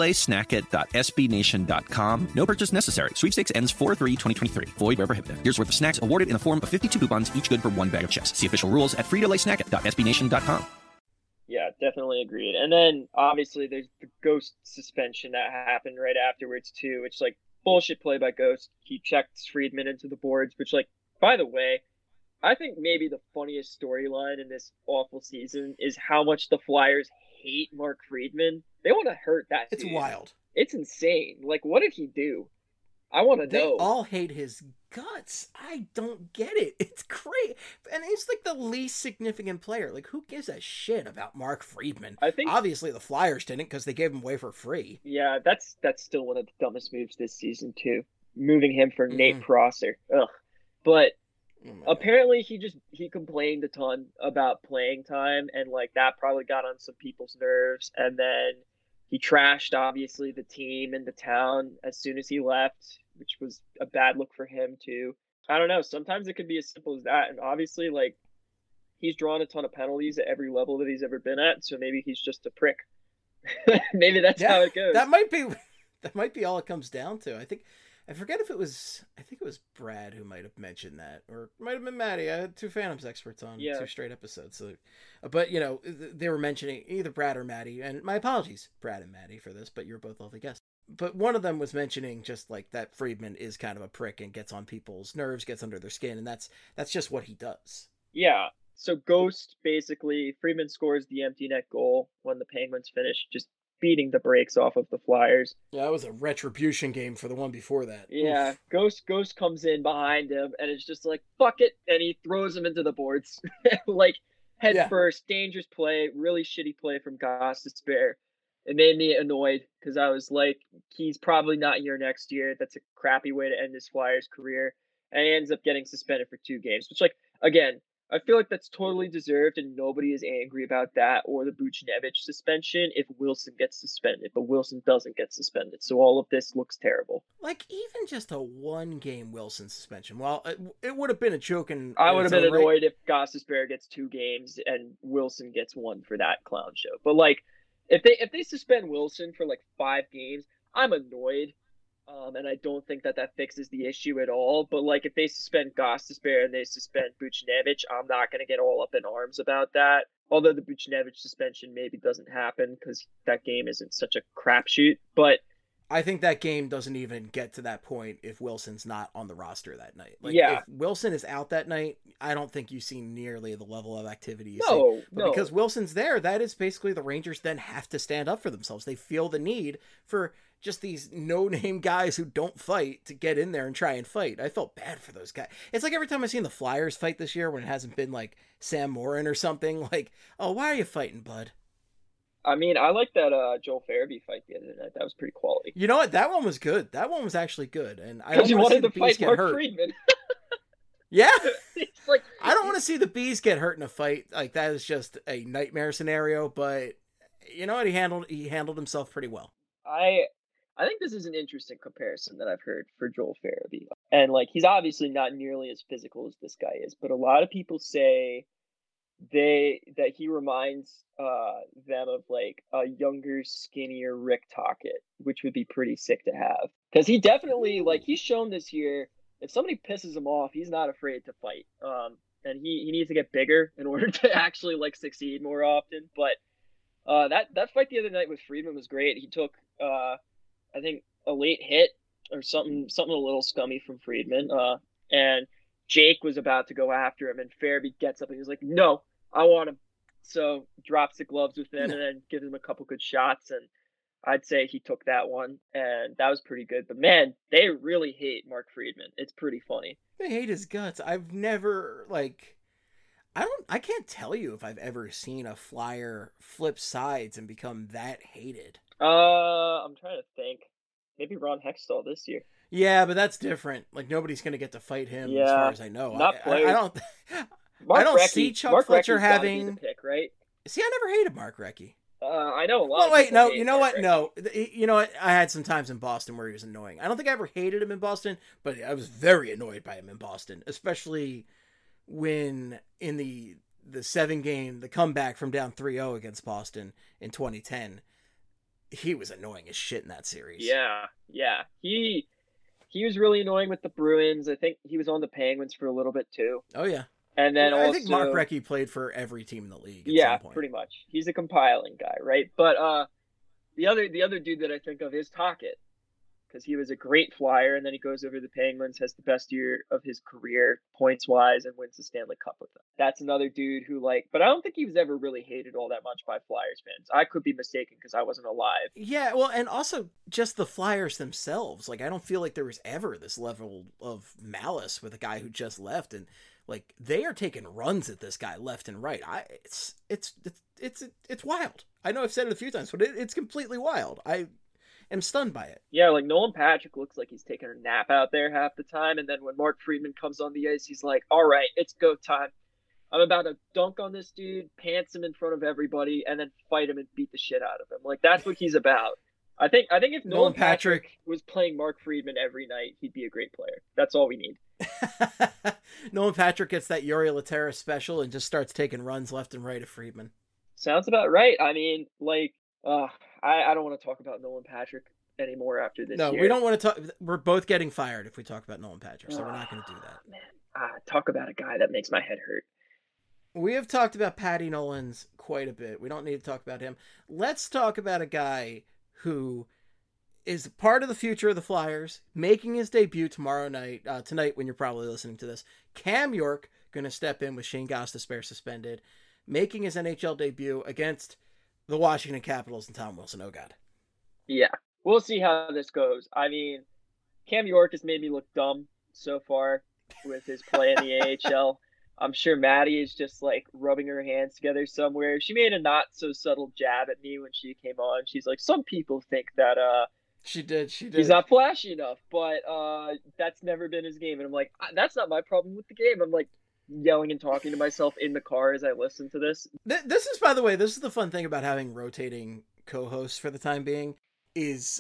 fritolaysnacket.sbnation.com. No purchase necessary. Sweepstakes ends 4/3/2023. Void where prohibited. Here's worth of snacks awarded in the form of 52 coupons, each good for one bag of chips. See official rules at fritolaysnacket.sbnation.com. Yeah, definitely agreed. And then obviously there's the Ghost suspension that happened right afterwards too, which like bullshit play by Ghost. He checked Friedman into the boards, which like, by the way, I think maybe the funniest storyline in this awful season is how much the Flyers hate Mark Friedman. They want to hurt that dude. It's wild. It's insane. Like, what did he do? I want to know. They all hate his guts. I don't get it. It's great. And he's like the least significant player. Like, who gives a shit about Mark Friedman? I think obviously the Flyers didn't because they gave him away for free. Yeah, that's still one of the dumbest moves this season too. Moving him for Nate Prosser. Ugh. But apparently he complained a ton about playing time, and like that probably got on some people's nerves. And then he trashed obviously the team and the town as soon as he left, which was a bad look for him too. I don't know. Sometimes it could be as simple as that. And obviously, like, he's drawn a ton of penalties at every level that he's ever been at. So maybe he's just a prick. Maybe that's how it goes. That might be all it comes down to. I think it was Brad who might have mentioned that, or it might have been Maddie. I had two Phantoms experts on 2 straight episodes. So, but you know, they were mentioning either Brad or Maddie, and my apologies, Brad and Maddie, for this, but you're both lovely guests. But one of them was mentioning just like that Friedman is kind of a prick and gets on people's nerves, gets under their skin, and that's just what he does. Yeah. So Ghost, basically, Friedman scores the empty net goal when the Penguins finish, just beating the brakes off of the Flyers. Yeah, that was a retribution game for the one before that. Yeah, Ghost comes in behind him, and it's just like, fuck it, and he throws him into the boards. Like, head first, dangerous play, really shitty play from Gostisbehere. It made me annoyed, because I was like, he's probably not here next year. That's a crappy way to end his Flyers career. And he ends up getting suspended for 2 games, which, like, again, I feel like that's totally deserved, and nobody is angry about that or the Buchnevich suspension if Wilson gets suspended, but Wilson doesn't get suspended. So all of this looks terrible. Like, even just a 1-game Wilson suspension, well, it would have been a joke. And I would have been annoyed if Gostisbehere gets 2 games and Wilson gets 1 for that clown show. But like, if they suspend Wilson for like 5 games, I'm annoyed. And I don't think that fixes the issue at all. But like, if they suspend Gostisbehere and they suspend Buchnevich, I'm not going to get all up in arms about that. Although the Buchnevich suspension maybe doesn't happen because that game isn't such a crapshoot. But I think that game doesn't even get to that point if Wilson's not on the roster that night. Like, yeah. If Wilson is out that night, I don't think you see nearly the level of activity you see. But because Wilson's there, that is basically the Rangers then have to stand up for themselves. They feel the need for just these no-name guys who don't fight to get in there and try and fight. I felt bad for those guys. It's like every time I've seen the Flyers fight this year when it hasn't been like Sam Morin or something, like, oh, why are you fighting, bud? I mean, I like that Joel Farabee fight the other night. That was pretty quality. You know what? That one was good. That one was actually good. And I don't want to see the Bees get hurt. Friedman. Yeah. It's like, I don't want to see the Bees get hurt in a fight. Like, that is just a nightmare scenario. But you know what? He handled himself pretty well. I think this is an interesting comparison that I've heard for Joel Farabee. And like, he's obviously not nearly as physical as this guy is, but a lot of people say that he reminds them of like a younger, skinnier Rick Tocchet, which would be pretty sick to have. Because he definitely, like, he's shown this year, if somebody pisses him off, he's not afraid to fight. And he needs to get bigger in order to actually like succeed more often. But that fight the other night with Friedman was great. He took I think a late hit or something a little scummy from Friedman. And Jake was about to go after him, and Farabee gets up and he's like, "No, I want him." So drops the gloves with him and then gives him a couple good shots. And I'd say he took that one, and that was pretty good. But man, they really hate Mark Friedman. It's pretty funny. They hate his guts. I've never I can't tell you if I've ever seen a Flyer flip sides and become that hated. I'm trying to think. Maybe Ron Hextall this year. Yeah, but that's different. Like, nobody's going to get to fight him as far as I know. I don't see Chuck Fletcher having... pick, right? See, I never hated Mark Recchi. I know a lot. Well, wait, no, you know what? No, you know what? I had some times in Boston where he was annoying. I don't think I ever hated him in Boston, but I was very annoyed by him in Boston, especially when in the 7-game, the comeback from down 3-0 against Boston in 2010. he was annoying as shit in that series. Yeah. He was really annoying with the Bruins. I think he was on the Penguins for a little bit too. Oh yeah. And then I also, think Mark Recchi played for every team in the league at yeah, some point. pretty much. He's a compiling guy, right? But the other dude that I think of is Tocchet, because he was a great Flyer, and then he goes over to the Penguins, has the best year of his career points wise, and wins the Stanley Cup with them. That's another dude who but I don't think he was ever really hated all that much by Flyers fans. I could be mistaken because I wasn't alive. Yeah, well, and also just the Flyers themselves. Like, I don't feel like there was ever this level of malice with a guy who just left, and like they are taking runs at this guy left and right. It's wild. I know I've said it a few times, but it's completely wild. I am stunned by it. Yeah, like Nolan Patrick looks like he's taking a nap out there half the time, and then when Mark Friedman comes on the ice, he's like, "All right, it's go time. I'm about to dunk on this dude, pants him in front of everybody, and then fight him and beat the shit out of him." Like, that's what he's about. I think if Nolan Patrick was playing Mark Friedman every night, he'd be a great player. That's all we need. Nolan Patrick gets that Yuri Laterra special and just starts taking runs left and right at Friedman. Sounds about right. I mean, I don't want to talk about Nolan Patrick anymore after this year. No, we don't want to talk. We're both getting fired if we talk about Nolan Patrick, so we're not going to do that. Man, talk about a guy that makes my head hurt. We have talked about Patty Nolans quite a bit. We don't need to talk about him. Let's talk about a guy who is part of the future of the Flyers, making his debut tonight when you're probably listening to this. Cam York going to step in with Shane Gostisbehere suspended, making his NHL debut against the Washington Capitals and Tom Wilson. Oh, God. Yeah, we'll see how this goes. I mean, Cam York has made me look dumb so far with his play in the AHL. I'm sure Maddie is just rubbing her hands together somewhere. She made a not so subtle jab at me when she came on. She's like, some people think that she did. He's not flashy enough, but that's never been his game. And I'm like, that's not my problem with the game. I'm like yelling and talking to myself in the car as I listen to this. This is, by the way, this is the fun thing about having rotating co-hosts for the time being. Is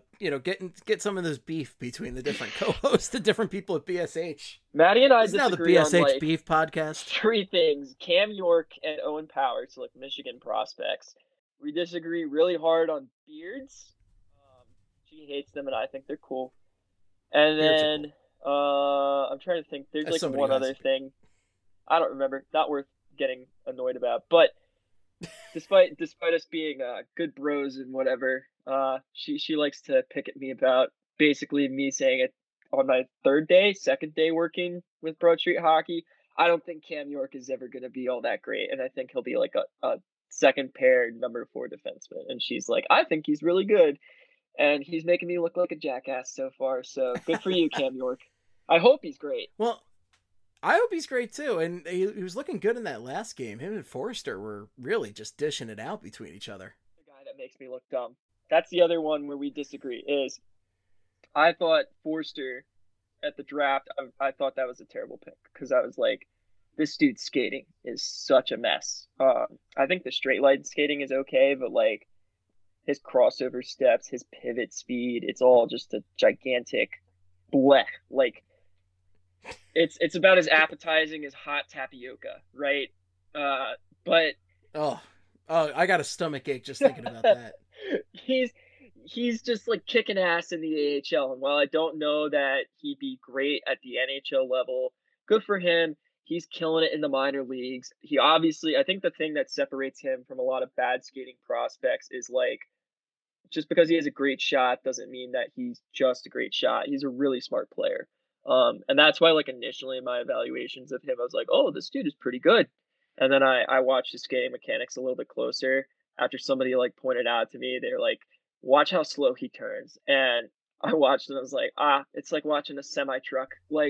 get some of this beef between the different co-hosts, the different people at BSH. Maddie and I disagree now the BSH on, beef podcast. 3 things: Cam York and Owen Power, so Michigan prospects. We disagree really hard on beards. She hates them, and I think they're cool. And then I'm trying to think. There's one other thing. I don't remember. Not worth getting annoyed about, but. Despite us being good bros and whatever, she likes to pick at me about basically me saying it on my second day working with Broad Street Hockey. I don't think Cam York is ever going to be all that great, and I think he'll be like a second pair number 4 defenseman. And she's like, I think he's really good, and he's making me look like a jackass so far. So good for you, Cam York. I hope he's great. Well, I hope he's great too, and he was looking good in that last game. Him and Forrester were really just dishing it out between each other. The guy that makes me look dumb. That's the other one where we disagree. Is I thought Forrester at the draft. I thought that was a terrible pick because I was like, this dude's skating is such a mess. I think the straight line skating is okay, but his crossover steps, his pivot speed, it's all just a gigantic blech. It's about as appetizing as hot tapioca, right? But I got a stomach ache just thinking about that. He's just kicking ass in the AHL, and while I don't know that he'd be great at the NHL level, good for him. He's killing it in the minor leagues. He obviously, I think the thing that separates him from a lot of bad skating prospects is just because he has a great shot doesn't mean that he's just a great shot. He's a really smart player. And that's why initially in my evaluations of him, I was like, oh, this dude is pretty good. And then I watched his skating mechanics a little bit closer after somebody pointed out to me, they're like, watch how slow he turns. And I watched and I was like, it's like watching a semi truck.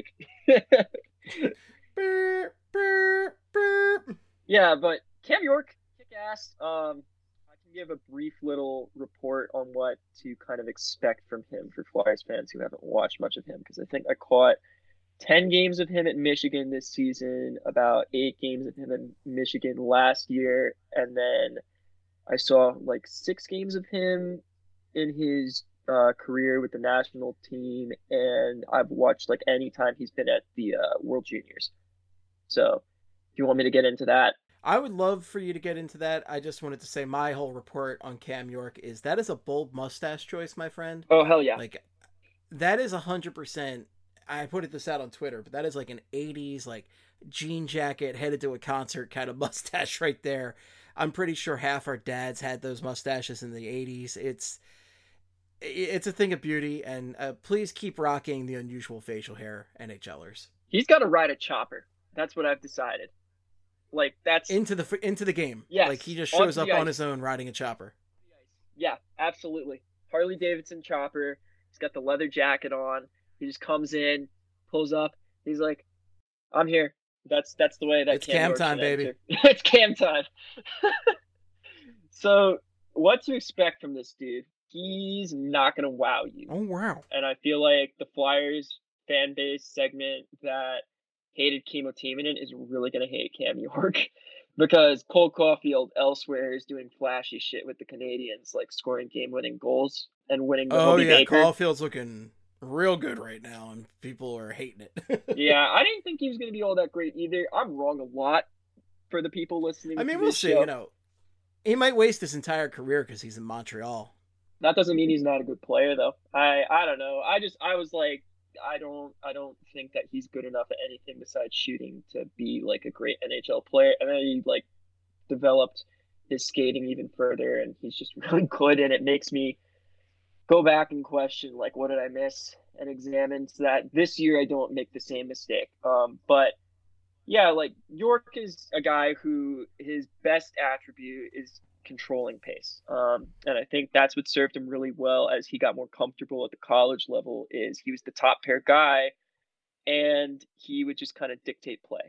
Yeah, but Cam York, kick ass. I can give a brief little report on what to kind of expect from him for Flyers fans who haven't watched much of him, because I think I caught 10 games of him at Michigan this season, about 8 games of him in Michigan last year, and then I saw 6 games of him in his career with the national team, and I've watched any time he's been at the World Juniors. So if you want me to get into that. I would love for you to get into that. I just wanted to say my whole report on Cam York is that is a bold mustache choice, my friend. Oh, hell yeah. Like, that is 100%. I put this out on Twitter, but that is like an 80s, like, jean jacket, headed to a concert kind of mustache right there. I'm pretty sure half our dads had those mustaches in the 80s. It's a thing of beauty, and please keep rocking the unusual facial hair, NHLers. He's got to ride a chopper. That's what I've decided. Like, that's into the game. Yes, like he just shows up on his own riding a chopper. Yeah, absolutely. Harley Davidson chopper. He's got the leather jacket on. He just comes in, pulls up. He's like, "I'm here." That's the way that it's Cam time, baby. It's Cam time. So, what to expect from this dude? He's not gonna wow you. Oh wow! And I feel like the Flyers fan base segment that hated Kimmo Timonen is really going to hate Cam York, because Cole Caulfield elsewhere is doing flashy shit with the Canadians, like scoring game-winning goals and winning the Hobey Baker. Caulfield's looking real good right now, and people are hating it. Yeah, I didn't think he was going to be all that great either. I'm wrong a lot for the people listening. I mean, we'll see. Show. He might waste his entire career because he's in Montreal. That doesn't mean he's not a good player, though. I don't know. I was like, I don't think that he's good enough at anything besides shooting to be like a great NHL player. And then he like developed his skating even further, and he's just really good. And it makes me go back and question, like, what did I miss, and examine so that this year I don't make the same mistake. But yeah, like, York is a guy who his best attribute is controlling pace. And I think that's what served him really well as he got more comfortable at the college level, is he was the top pair guy and he would just kind of dictate play.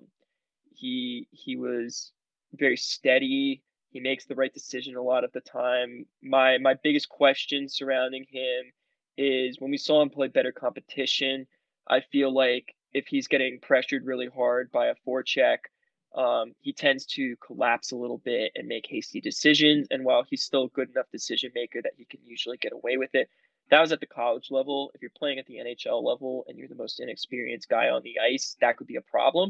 He was very steady. He makes the right decision a lot of the time. My biggest question surrounding him is when we saw him play better competition, I feel like if he's getting pressured really hard by a forecheck, he tends to collapse a little bit and make hasty decisions. And while he's still a good enough decision maker that he can usually get away with it, that was at the college level. If you're playing at the NHL level and you're the most inexperienced guy on the ice, that could be a problem.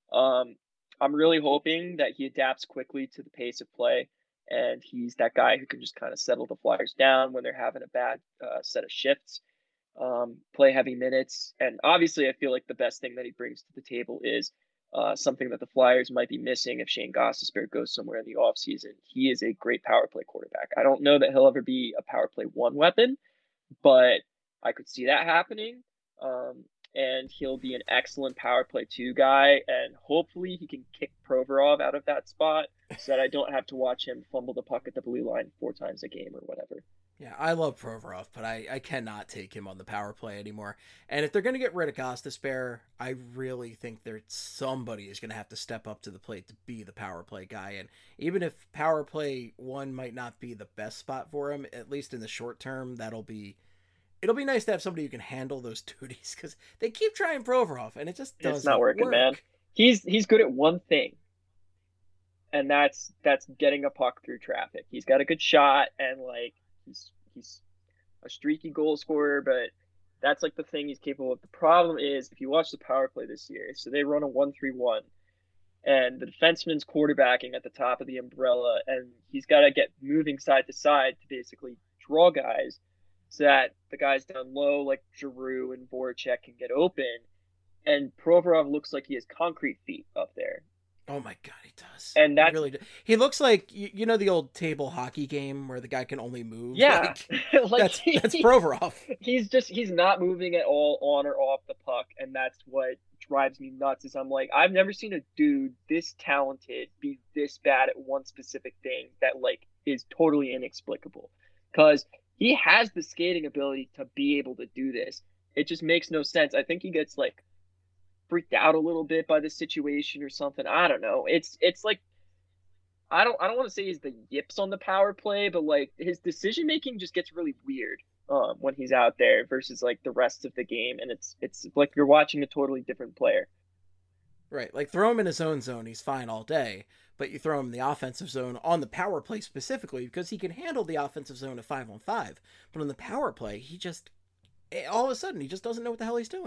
I'm really hoping that he adapts quickly to the pace of play, and he's that guy who can just kind of settle the Flyers down when they're having a bad set of shifts, play heavy minutes. And obviously I feel like the best thing that he brings to the table is something that the Flyers might be missing if Shane Gostisbehere goes somewhere in the offseason. He is a great power play quarterback. I don't know that he'll ever be a power play one weapon, but I could see that happening. And he'll be an excellent power play 2 guy, and hopefully he can kick Provorov out of that spot so that I don't have to watch him fumble the puck at the blue line 4 times a game or whatever. Yeah, I love Provorov, but I cannot take him on the power play anymore. And if they're going to get rid of Gostisbehere, I really think somebody is going to have to step up to the plate to be the power play guy. And even if power play 1 might not be the best spot for him, at least in the short term, it'll be nice to have somebody who can handle those duties, because they keep trying Provorov and it just doesn't. It's not working, work. Man. He's good at one thing, and that's getting a puck through traffic. He's got a good shot, and like he's a streaky goal scorer, but that's like the thing he's capable of. The problem is, if you watch the power play this year, so they run a 1-3-1, and the defenseman's quarterbacking at the top of the umbrella, and he's got to get moving side to side to basically draw guys, so that the guys down low like Giroux and Voracek can get open. And Provorov looks like he has concrete feet up there. Oh my God, he does. And that really does. He looks like, you know, the old table hockey game where the guy can only move. Yeah, that's Provorov. He's not moving at all on or off the puck, and that's what drives me nuts. Is I'm like, I've never seen a dude this talented be this bad at one specific thing that like is totally inexplicable. Because he has the skating ability to be able to do this. It just makes no sense. I think he gets like freaked out a little bit by the situation or something. I don't know. It's like I don't want to say he's the yips on the power play, but like his decision making just gets really weird when he's out there versus like the rest of the game, and it's like you're watching a totally different player. Right, like throw him in his own zone, he's fine all day, but you throw him in the offensive zone on the power play specifically because he can handle the offensive zone at 5-on-5. But on the power play, he just all of a sudden he just doesn't know what the hell he's doing.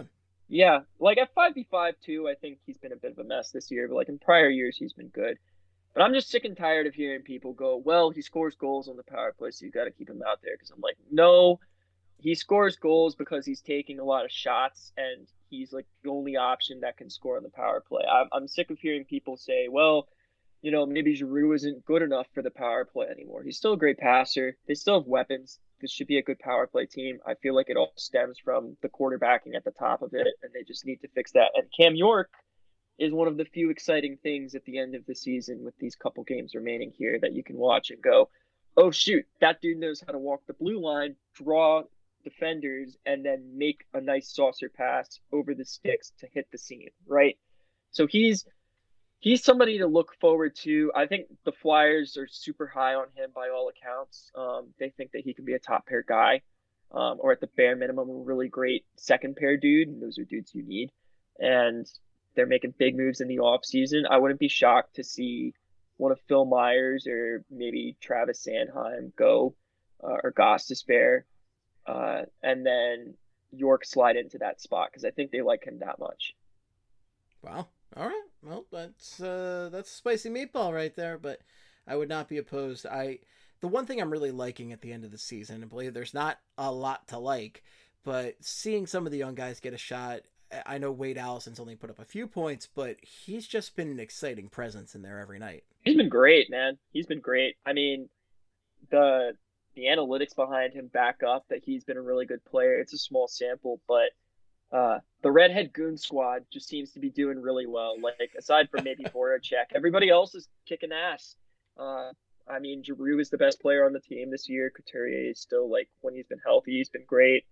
Yeah, like at 5v5 too, I think he's been a bit of a mess this year, but like in prior years, he's been good. But I'm just sick and tired of hearing people go, well, he scores goals on the power play, so you got to keep him out there. Because I'm like, no, he scores goals because he's taking a lot of shots and he's like the only option that can score on the power play. I'm sick of hearing people say, well, maybe Giroux isn't good enough for the power play anymore. He's still a great passer. They still have weapons. This should be a good power play team. I feel like it all stems from the quarterbacking at the top of it, and they just need to fix that. And Cam York is one of the few exciting things at the end of the season with these couple games remaining here that you can watch and go, oh, shoot, that dude knows how to walk the blue line, draw defenders, and then make a nice saucer pass over the sticks to hit the seam, right? So he's somebody to look forward to. I think the Flyers are super high on him by all accounts. They think that he can be a top pair guy, or at the bare minimum, a really great second pair dude. And those are dudes you need. And they're making big moves in the offseason. I wouldn't be shocked to see one of Phil Myers or maybe Travis Sanheim go, or Gostisbehere, and then York slide into that spot because I think they like him that much. Wow. All right. Well, that's a spicy meatball right there, but I would not be opposed. The one thing I'm really liking at the end of the season, and believe there's not a lot to like, but seeing some of the young guys get a shot. I know Wade Allison's only put up a few points, but he's just been an exciting presence in there every night. He's been great, man. He's been great. I mean, the analytics behind him back up that he's been a really good player. It's a small sample, but the Redhead Goon Squad just seems to be doing really well. Like, aside from maybe Voracek, everybody else is kicking ass. I mean, Giroux is the best player on the team this year. Couturier is still, like, when he's been healthy, he's been great.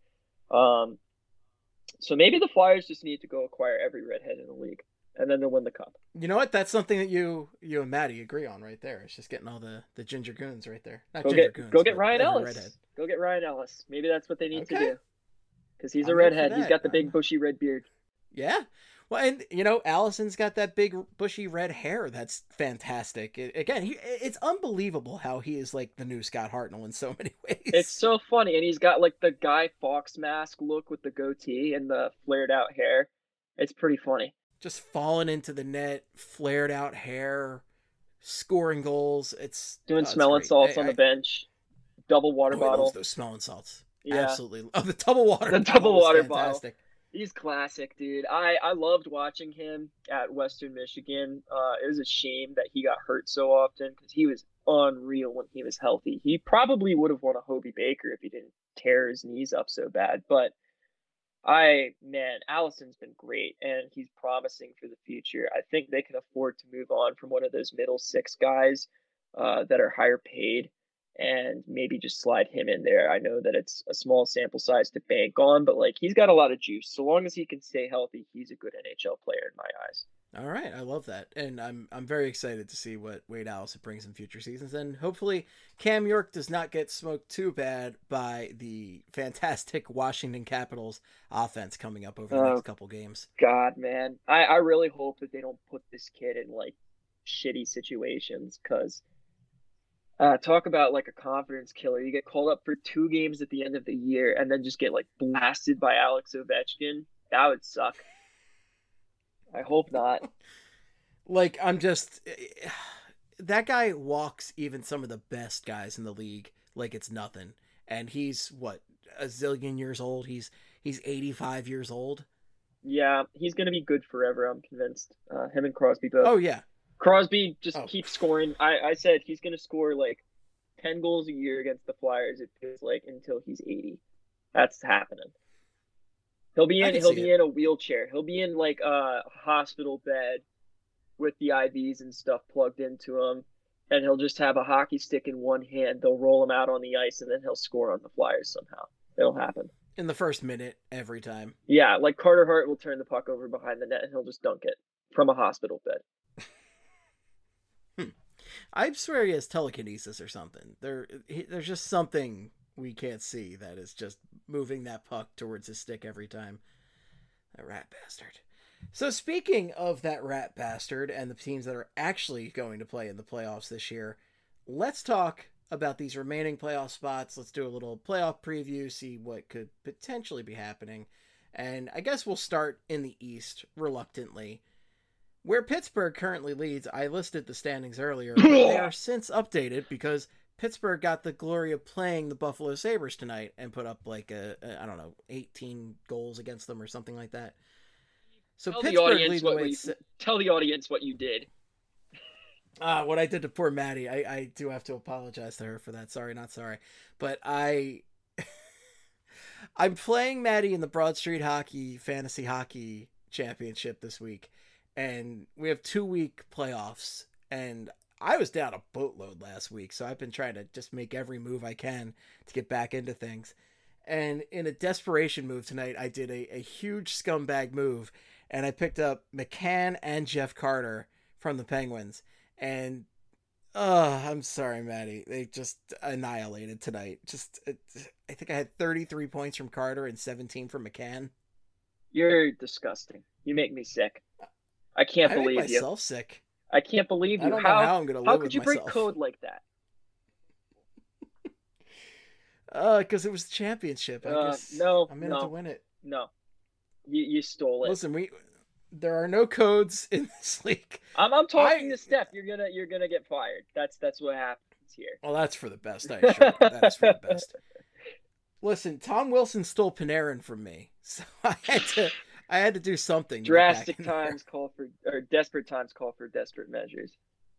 So maybe the Flyers just need to go acquire every redhead in the league, and then they'll win the cup. You know what? That's something that you and Maddie agree on right there. It's just getting all the ginger goons right there. Go get Ryan Ellis. Redhead. Go get Ryan Ellis. Maybe that's what they need to do. Because he's a redhead. He's got the big bushy red beard. Yeah. Well, and, Allison's got that big bushy red hair. That's fantastic. It's unbelievable how he is like the new Scott Hartnell in so many ways. It's so funny. And he's got like the Guy Fawkes mask look with the goatee and the flared out hair. It's pretty funny. Just falling into the net, flared out hair, scoring goals. It's doing smelling salts on the bench. Double water bottle. I love those smelling salts. Yeah. Absolutely. Oh, the double water bottle. The double water fantastic. Bottle. He's classic, dude. I loved watching him at Western Michigan. It was a shame that he got hurt so often because he was unreal when he was healthy. He probably would have won a Hobie Baker if he didn't tear his knees up so bad. But Allison's been great, and he's promising for the future. I think they can afford to move on from one of those middle six guys that are higher paid, and maybe just slide him in there. I know that it's a small sample size to bank on, but like he's got a lot of juice. So long as he can stay healthy, he's a good NHL player in my eyes. All right, I love that, and I'm very excited to see what Wade Allison brings in future seasons, and hopefully Cam York does not get smoked too bad by the fantastic Washington Capitals offense coming up over the next couple games. God, man, I really hope that they don't put this kid in like shitty situations because. Talk about like a confidence killer. You get called up for 2 games at the end of the year and then just get like blasted by Alex Ovechkin. That would suck. I hope not. Like, that guy walks even some of the best guys in the league like it's nothing. And he's what, a zillion years old? He's 85 years old. Yeah, he's going to be good forever, I'm convinced. Him and Crosby both. Oh, yeah. Crosby just keeps scoring. I said he's going to score like 10 goals a year against the Flyers, it feels like, until he's 80. That's happening. He'll be in a wheelchair. He'll be in like a hospital bed with the IVs and stuff plugged into him, and he'll just have a hockey stick in one hand. They'll roll him out on the ice, and then he'll score on the Flyers somehow. It'll happen. In the first minute, every time. Yeah, like Carter Hart will turn the puck over behind the net, and he'll just dunk it from a hospital bed. I swear he has telekinesis or something. There's just something we can't see that is just moving that puck towards his stick every time. That rat bastard. So speaking of that rat bastard and the teams that are actually going to play in the playoffs this year, let's talk about these remaining playoff spots. Let's do a little playoff preview, see what could potentially be happening. And I guess we'll start in the East, reluctantly. Where Pittsburgh currently leads, I listed the standings earlier, but they are since updated because Pittsburgh got the glory of playing the Buffalo Sabres tonight and put up like I don't know, 18 goals against them or something like that. So Tell Pittsburgh the audience leading tell the audience what you did. What I did to poor Maddie, I do have to apologize to her for that. Sorry, not sorry. But I'm playing Maddie in the Broad Street Hockey Fantasy Hockey Championship this week. And we have 2-week playoffs. And I was down a boatload last week. So I've been trying to just make every move I can to get back into things. And in a desperation move tonight, I did a huge scumbag move. And I picked up McCann and Jeff Carter from the Penguins. And, I'm sorry, Maddie. They just annihilated tonight. I think I had 33 points from Carter and 17 from McCann. You're disgusting. You make me sick. I can't believe you. I make myself sick. I can't believe you. I don't know how I'm going to live with myself. How could you break code like that? Because it was the championship. I guess I'm in it to win it. No. You stole it. Listen, there are no codes in this league. I'm talking to Steph. You're gonna get fired. That's what happens here. Well, that's for the best. I assure you. That is for the best. Listen, Tom Wilson stole Panarin from me, so I had to do something. Desperate times call for desperate measures.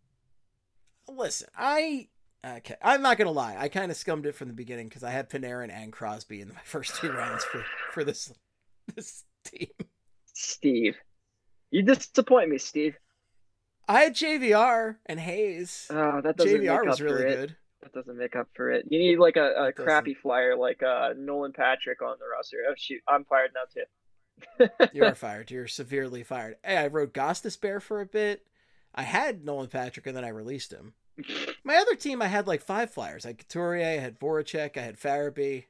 Listen, I'm not gonna lie. I kind of scummed it from the beginning because I had Panarin and Crosby in my first 2 rounds for this team. Steve, you disappoint me, Steve. I had JVR and Hayes. Oh, that doesn't JVR make was up really for it. good. That doesn't make up for it. You need like a crappy flyer like Nolan Patrick on the roster. Oh shoot, I'm fired now too. You are fired. You're severely fired. Hey, I rode Gostisbehere for a bit. I had Nolan Patrick and then I released him. My other team, I had like 5 flyers. I had Couturier, I had Voracek, I had Farabee.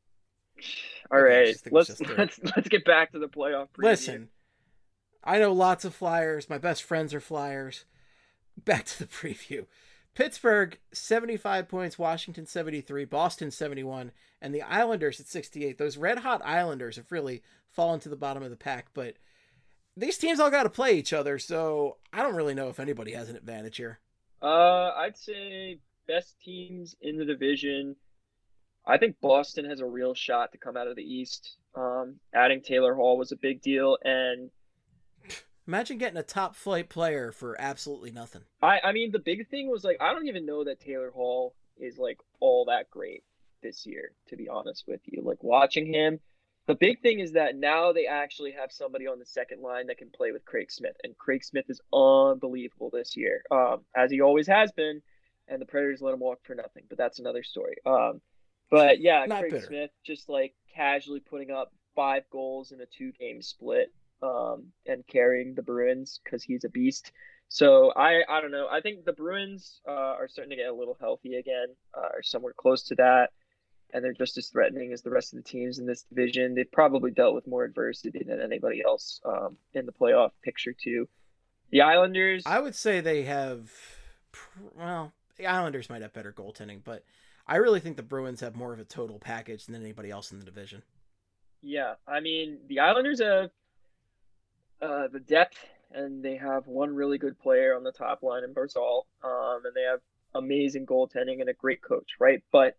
All right, let's get back to the playoff preview. Listen, I know lots of flyers. My best friends are flyers. Back to the preview. Pittsburgh, 75 points. Washington, 73. Boston, 71. And the Islanders at 68. Those red-hot Islanders have really fallen to the bottom of the pack. But these teams all got to play each other, so I don't really know if anybody has an advantage here. I'd say best teams in the division. I think Boston has a real shot to come out of the East. Adding Taylor Hall was a big deal, and imagine getting a top flight player for absolutely nothing. I mean, the big thing was like, I don't even know that Taylor Hall is like all that great this year, to be honest with you. Like watching him, the big thing is that now they actually have somebody on the second line that can play with Craig Smith, and Craig Smith is unbelievable this year, as he always has been, and the Predators let him walk for nothing, but that's another story. But yeah, Craig Smith just like casually putting up 5 goals in a 2-game split. And carrying the Bruins because he's a beast. So I don't know. I think the Bruins are starting to get a little healthy again, or somewhere close to that, and they're just as threatening as the rest of the teams in this division. They've probably dealt with more adversity than anybody else in the playoff picture too. The Islanders, I would say they have. Well, the Islanders might have better goaltending, but I really think the Bruins have more of a total package than anybody else in the division. Yeah, I mean the Islanders have the depth, and they have one really good player on the top line in Barzal, and they have amazing goaltending and a great coach, right? But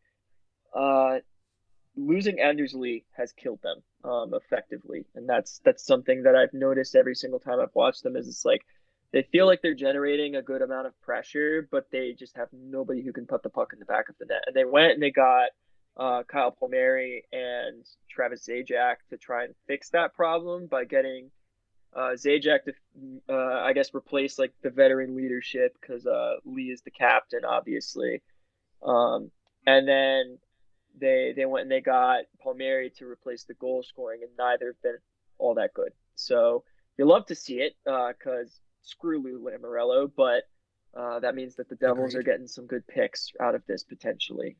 losing Anders Lee has killed them effectively, and that's something that I've noticed every single time I've watched them. Is it's like they feel like they're generating a good amount of pressure, but they just have nobody who can put the puck in the back of the net. And they went and they got Kyle Palmieri and Travis Zajac to try and fix that problem by getting Zajac to, I guess, replace like the veteran leadership because Lee is the captain, obviously. And then they went and they got Palmieri to replace the goal scoring, and neither have been all that good. So you love to see it because screw Lou Lamoriello, but that means that the Devils are getting some good picks out of this potentially.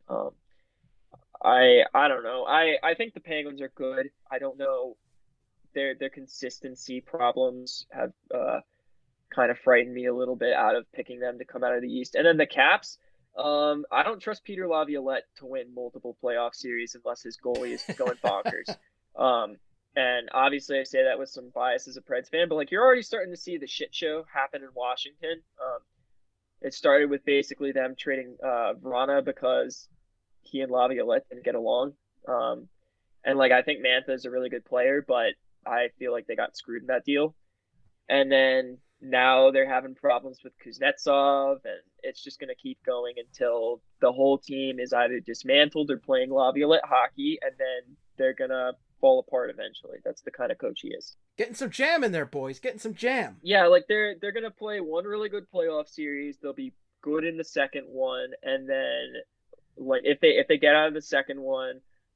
I don't know. I think the Penguins are good. I don't know. Their consistency problems have kind of frightened me a little bit out of picking them to come out of the East. And then the Caps, I don't trust Peter Laviolette to win multiple playoff series unless his goalie is going bonkers. And obviously I say that with some bias as a Preds fan, but like you're already starting to see the shit show happen in Washington. It started with basically them trading Vrana because he and Laviolette didn't get along. And like I think Mantha is a really good player, but I feel like they got screwed in that deal. And then now they're having problems with Kuznetsov, and it's just going to keep going until the whole team is either dismantled or playing Laviolette hockey, and then they're going to fall apart eventually. That's the kind of coach he is. Getting some jam in there, boys. Getting some jam. Yeah, like they're going to play one really good playoff series. They'll be good in the second one, and then like if they get out of the second one,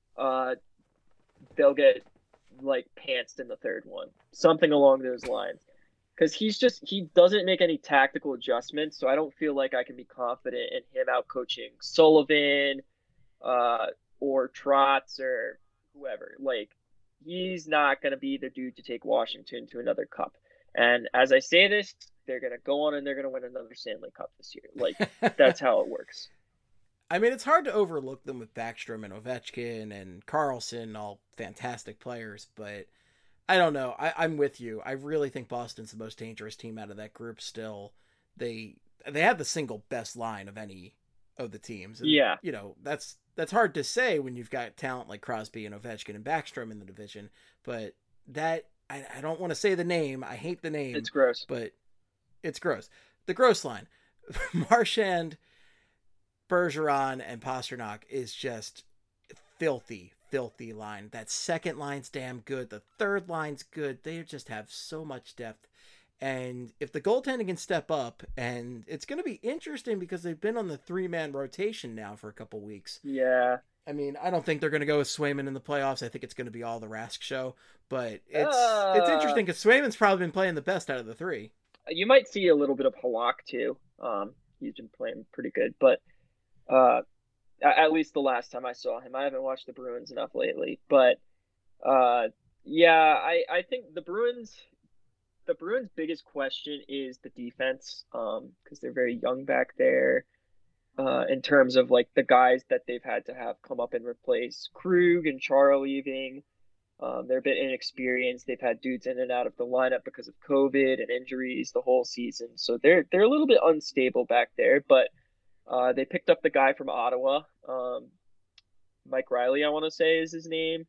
they'll get like pantsed in the third one. Something along those lines. Because he doesn't make any tactical adjustments, so I don't feel like I can be confident in him out coaching Sullivan or Trotz or whoever. Like, he's not going to be the dude to take Washington to another cup. And as I say this, they're going to go on and they're going to win another Stanley Cup this year. Like, that's how it works. I mean, it's hard to overlook them with Backstrom and Ovechkin and Carlson, all fantastic players, but I don't know. I'm with you. I really think Boston's the most dangerous team out of that group still. They have the single best line of any of the teams. And, yeah. You know, that's hard to say when you've got talent like Crosby and Ovechkin and Backstrom in the division. But that, I don't want to say the name. I hate the name. It's gross. But it's gross. The gross line. Marchand, Bergeron, and Pasternak is just filthy line. That second line's damn good. The third line's good. They just have so much depth. And if the goaltending can step up, and it's going to be interesting because they've been on the 3-man rotation now for a couple weeks. Yeah. I mean, I don't think they're going to go with Swayman in the playoffs. I think it's going to be all the Rask show. But it's interesting because Swayman's probably been playing the best out of the three. You might see a little bit of Halak too. He's been playing pretty good. But at least the last time I saw him. I haven't watched the Bruins enough lately, but yeah, I think the Bruins' biggest question is the defense, because they're very young back there, in terms of like the guys that they've had to have come up and replace Krug and Chara leaving. They're a bit inexperienced. They've had dudes in and out of the lineup because of COVID and injuries the whole season, so they're a little bit unstable back there, but. They picked up the guy from Ottawa, Mike Riley, I want to say is his name,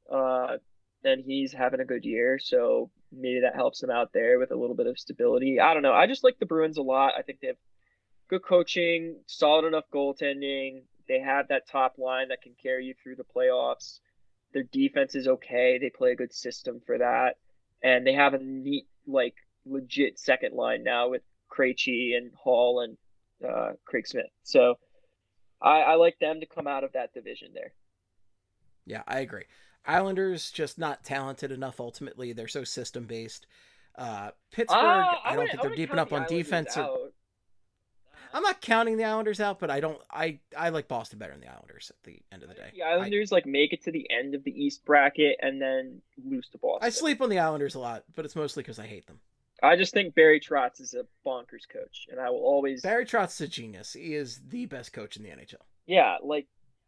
and he's having a good year, so maybe that helps them out there with a little bit of stability. I don't know. I just like the Bruins a lot. I think they have good coaching, solid enough goaltending. They have that top line that can carry you through the playoffs. Their defense is okay. They play a good system for that, and they have a neat, like, legit second line now with Krejci and Hall and Craig Smith. So I like them to come out of that division there. Yeah, I agree. Islanders just not talented enough ultimately. They're so system based. Pittsburgh, I don't think they're deep enough on defense. I'm not counting the Islanders out, but I like Boston better than the Islanders at the end of the day. The Islanders make it to the end of the East bracket and then lose to Boston. I sleep on the Islanders a lot, but it's mostly because I hate them. I just think Barry Trotz is a bonkers coach, and I will always... Barry Trotz is a genius. He is the best coach in the NHL. Yeah, like,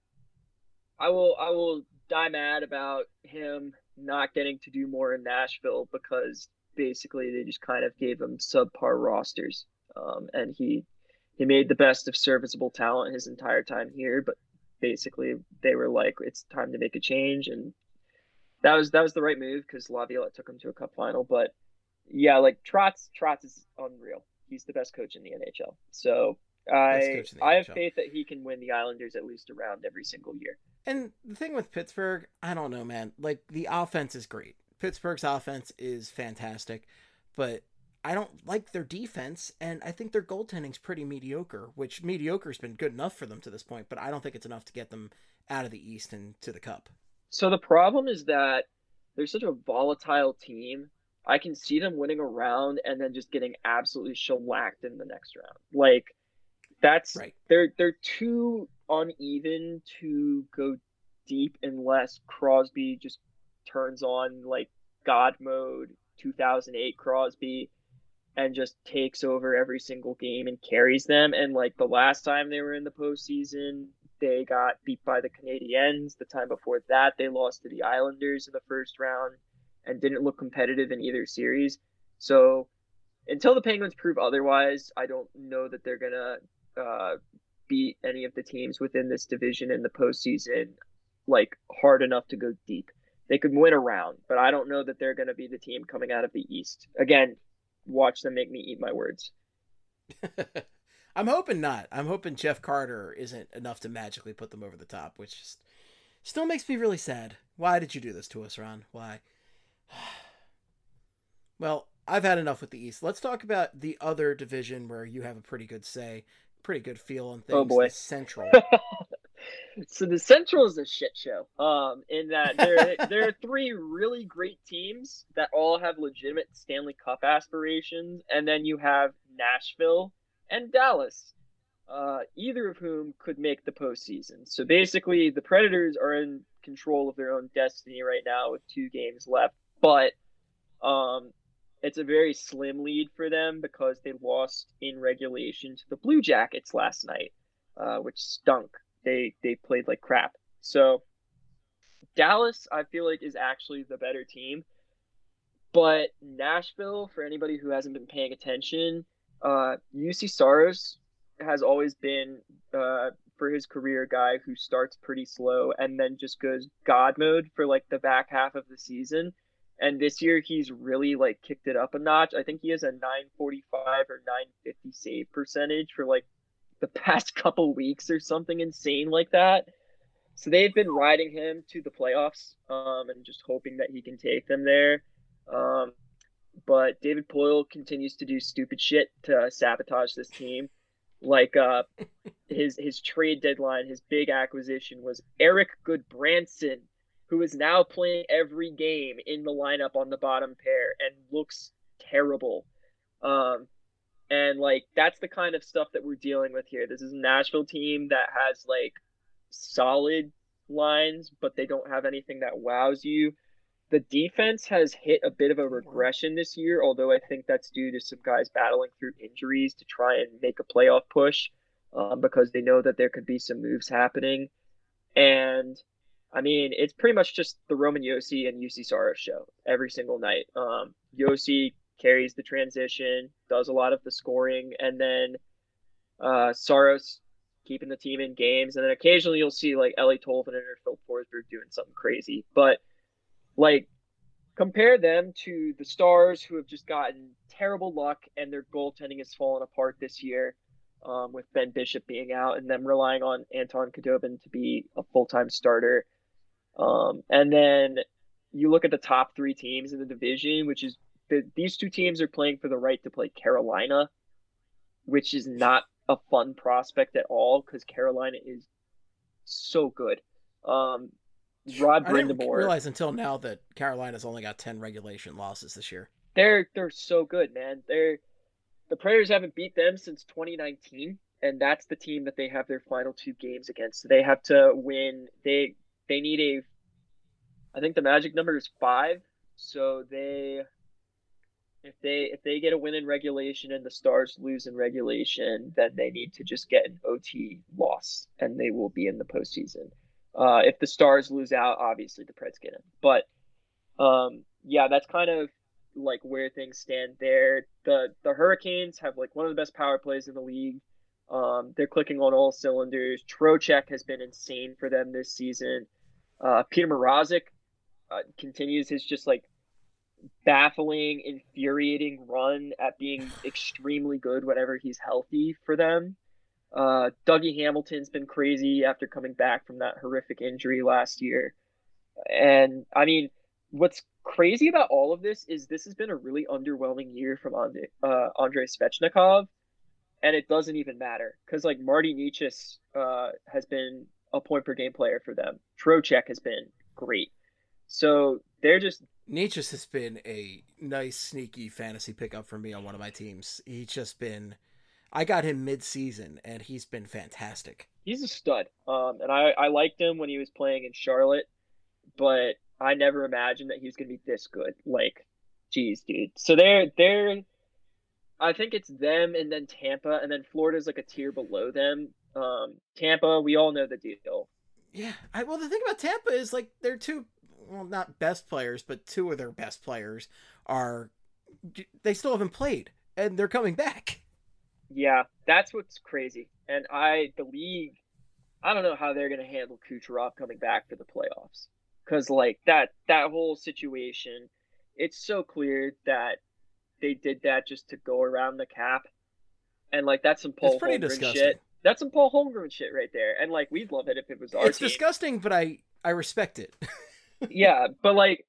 I will die mad about him not getting to do more in Nashville because basically they just kind of gave him subpar rosters, and he made the best of serviceable talent his entire time here, but basically they were like, it's time to make a change, and that was the right move because Laviolette took him to a cup final, but yeah, like Trotz is unreal. He's the best coach in the NHL. So I have faith that he can win the Islanders at least a round every single year. And the thing with Pittsburgh, I don't know, man. Like, the offense is great. Pittsburgh's offense is fantastic, but I don't like their defense, and I think their goaltending's pretty mediocre, which mediocre's been good enough for them to this point, but I don't think it's enough to get them out of the East and to the Cup. So the problem is that they're such a volatile team. I can see them winning a round and then just getting absolutely shellacked in the next round. Like, that's right. They're too uneven to go deep unless Crosby just turns on like God mode 2008 Crosby and just takes over every single game and carries them. And like the last time they were in the postseason, they got beat by the Canadiens. The time before that, they lost to the Islanders in the first round and didn't look competitive in either series. So until the Penguins prove otherwise, I don't know that they're going to beat any of the teams within this division in the postseason like hard enough to go deep. They could win a round, but I don't know that they're going to be the team coming out of the East. Again, watch them make me eat my words. I'm hoping not. I'm hoping Jeff Carter isn't enough to magically put them over the top, which still makes me really sad. Why did you do this to us, Ron? Why? Well, I've had enough with the East. Let's talk about the other division where you have a pretty good say, pretty good feel on things. Oh boy. The Central. So the Central is a shit show. In that there are three really great teams that all have legitimate Stanley Cup aspirations, and then you have Nashville and Dallas, either of whom could make the postseason. So basically, the Predators are in control of their own destiny right now with 2 games left, but it's a very slim lead for them because they lost in regulation to the Blue Jackets last night, which stunk. They played like crap. So Dallas, I feel like, is actually the better team. But Nashville, for anybody who hasn't been paying attention, UC Saros has always been, for his career, a guy who starts pretty slow and then just goes God mode for like the back half of the season. And this year he's really like kicked it up a notch. I think he has a 945 or 950 save percentage for like the past couple weeks or something insane like that. So they've been riding him to the playoffs, and just hoping that he can take them there. But David Poile continues to do stupid shit to sabotage this team. Like his trade deadline, his big acquisition was Eric Goodbranson, who is now playing every game in the lineup on the bottom pair and looks terrible. And like that's the kind of stuff that we're dealing with here. This is a Nashville team that has like solid lines, but they don't have anything that wows you. The defense has hit a bit of a regression this year, although I think that's due to some guys battling through injuries to try and make a playoff push, because they know that there could be some moves happening. And I mean, it's pretty much just the Roman Josi and UC Saros show every single night. Josi carries the transition, does a lot of the scoring, and then Saros keeping the team in games. And then occasionally you'll see like Ellie Tolvanen or Phil Forsberg doing something crazy. But like, compare them to the Stars, who have just gotten terrible luck and their goaltending has fallen apart this year, with Ben Bishop being out and them relying on Anton Khudobin to be a full-time starter. And then you look at the top 3 teams in the division, which is these 2 teams are playing for the right to play Carolina, which is not a fun prospect at all because Carolina is so good. Rod Brind'Amour. I didn't realize until now that Carolina's only got 10 regulation losses this year. They're so good, man. The Predators haven't beat them since 2019, and that's the team that they have their final 2 games against. So they have to win. They need I think the magic number is 5. So if they get a win in regulation and the Stars lose in regulation, then they need to just get an OT loss, and they will be in the postseason. If the Stars lose out, obviously the Preds get in. But yeah, that's kind of like where things stand there. The Hurricanes have like one of the best power plays in the league. They're clicking on all cylinders. Trocheck has been insane for them this season. Peter Mrazek continues his just like baffling, infuriating run at being extremely good whenever he's healthy for them. Dougie Hamilton's been crazy after coming back from that horrific injury last year. And I mean, what's crazy about all of this is this has been a really underwhelming year from Andrei Svechnikov, and it doesn't even matter because like Marty Necas has been a point per game player for them. Trocheck has been great. So they're just... Necas has been a nice, sneaky fantasy pickup for me on one of my teams. He's just been... I got him mid-season, and he's been fantastic. He's a stud. And I liked him when he was playing in Charlotte, but I never imagined that he was going to be this good. Like, geez, dude. So they're I think it's them and then Tampa, and then Florida's like a tier below them. Tampa, we all know the deal. Yeah. Well, the thing about Tampa is like they're two, well, not best players, but two of their best players they still haven't played and they're coming back. Yeah, that's what's crazy. And the league, I don't know how they're going to handle Kucherov coming back for the playoffs. Because, like, that whole situation, it's so clear that they did that just to go around the cap. And, like, that's some Paul Holmgren shit. That's some Paul Holmgren shit right there. And, like, we'd love it if it was our It's team. disgusting, but I respect it. Yeah, but, like,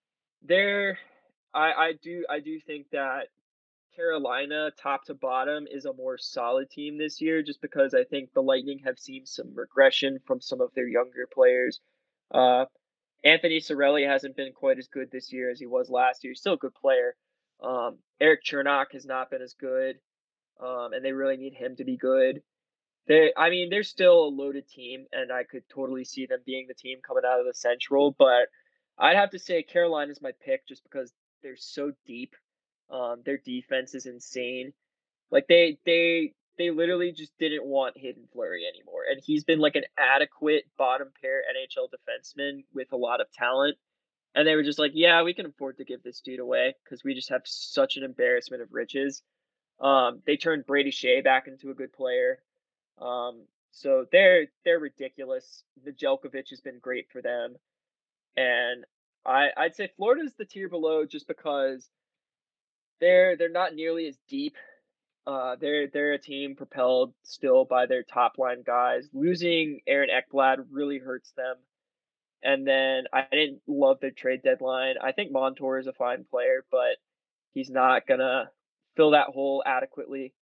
I do think that Carolina, top to bottom, is a more solid team this year just because I think the Lightning have seen some regression from some of their younger players. Anthony Cirelli hasn't been quite as good this year as he was last year. He's still a good player. Erik Chernak has not been as good, and they really need him to be good. They're still a loaded team, and I could totally see them being the team coming out of the Central, but I'd have to say Carolina's my pick just because they're so deep. Their defense is insane. Like they literally just didn't want Hayden Fleury anymore, and he's been like an adequate bottom pair NHL defenseman with a lot of talent. And they were just like, yeah, we can afford to give this dude away because we just have such an embarrassment of riches. They turned Brady Shea back into a good player. So they're ridiculous. Nedeljkovic has been great for them, and I'd say Florida's the tier below just because they're not nearly as deep. They're a team propelled still by their top line guys. Losing Aaron Ekblad really hurts them. And then I didn't love their trade deadline. I think Montour is a fine player, but he's not gonna fill that hole adequately.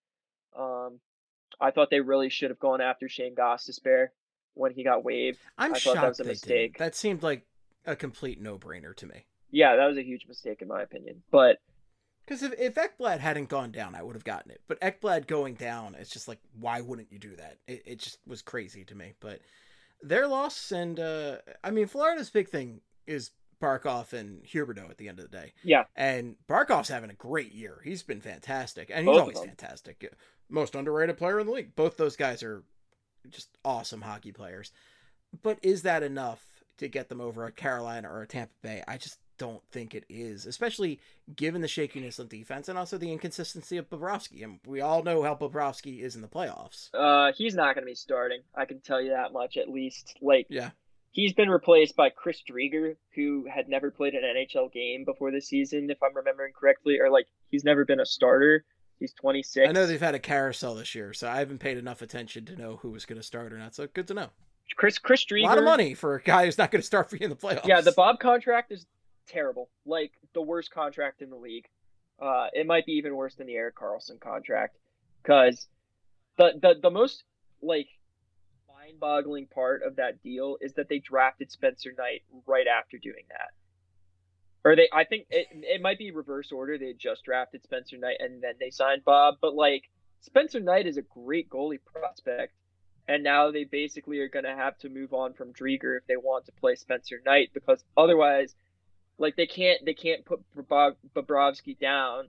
I thought they really should have gone after Shane Gostisbehere when he got waived. I thought that was shocked a they mistake. didn't. That seemed like a complete no-brainer to me. Yeah, that was a huge mistake in my opinion. But because if Ekblad hadn't gone down, I would have gotten it. But Ekblad going down, it's just like, why wouldn't you do that? It just was crazy to me. But their loss, and Florida's big thing is Barkov and Huberdeau at the end of the day. Yeah. And Barkov's having a great year. He's been fantastic. And Both he's of always them. fantastic. Most underrated player in the league. Both those guys are just awesome hockey players. But is that enough to get them over a Carolina or a Tampa Bay? I just don't think it is, especially given the shakiness of defense and also the inconsistency of Bobrovsky. And we all know how Bobrovsky is in the playoffs. He's not going to be starting. I can tell you that much, at least. Like, yeah. He's been replaced by Chris Driedger, who had never played an NHL game before this season, if I'm remembering correctly, or like he's never been a starter. He's 26. I know they've had a carousel this year, so I haven't paid enough attention to know who was going to start or not. So good to know. Chris Driedger, a lot of money for a guy who's not going to start for you in the playoffs. Yeah, the Bob contract is terrible, like the worst contract in the league. It might be even worse than the Erik Karlsson contract, because the most like mind-boggling part of that deal is that they drafted Spencer Knight right after doing that. Or I think it might be reverse order. They just drafted Spencer Knight and then they signed Bob. But like Spencer Knight is a great goalie prospect, and now they basically are going to have to move on from Driedger if they want to play Spencer Knight, because otherwise, like they can't put Bobrovsky down.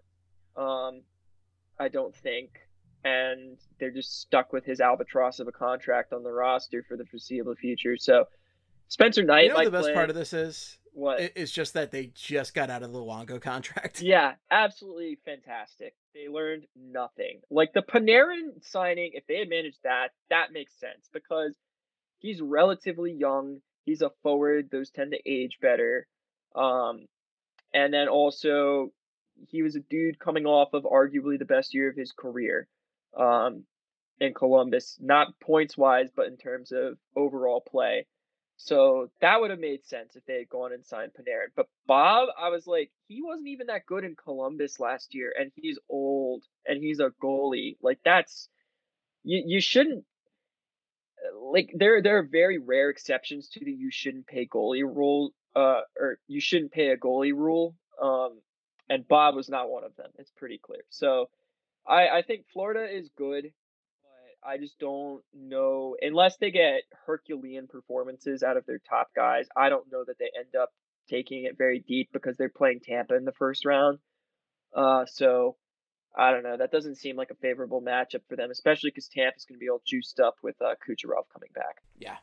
I don't think. And they're just stuck with his albatross of a contract on the roster for the foreseeable future. So Spencer Knight, what the best part of this is? What? It's just that they just got out of the Luongo contract. Yeah, absolutely fantastic. They learned nothing. Like the Panarin signing, if they had managed that makes sense because he's relatively young. He's a forward. Those tend to age better. And then also he was a dude coming off of arguably the best year of his career. In Columbus, not points wise, but in terms of overall play. So that would have made sense if they had gone and signed Panarin. But Bob, I was like, he wasn't even that good in Columbus last year, and he's old and he's a goalie. Like that's you shouldn't like there are very rare exceptions to the you shouldn't pay goalie rule or you shouldn't pay a goalie rule. And Bob was not one of them. It's pretty clear. So I think Florida is good, but I just don't know, unless they get Herculean performances out of their top guys, I don't know that they end up taking it very deep because they're playing Tampa in the first round. So I don't know. That doesn't seem like a favorable matchup for them, especially because Tampa's going to be all juiced up with Kucherov coming back. Yeah,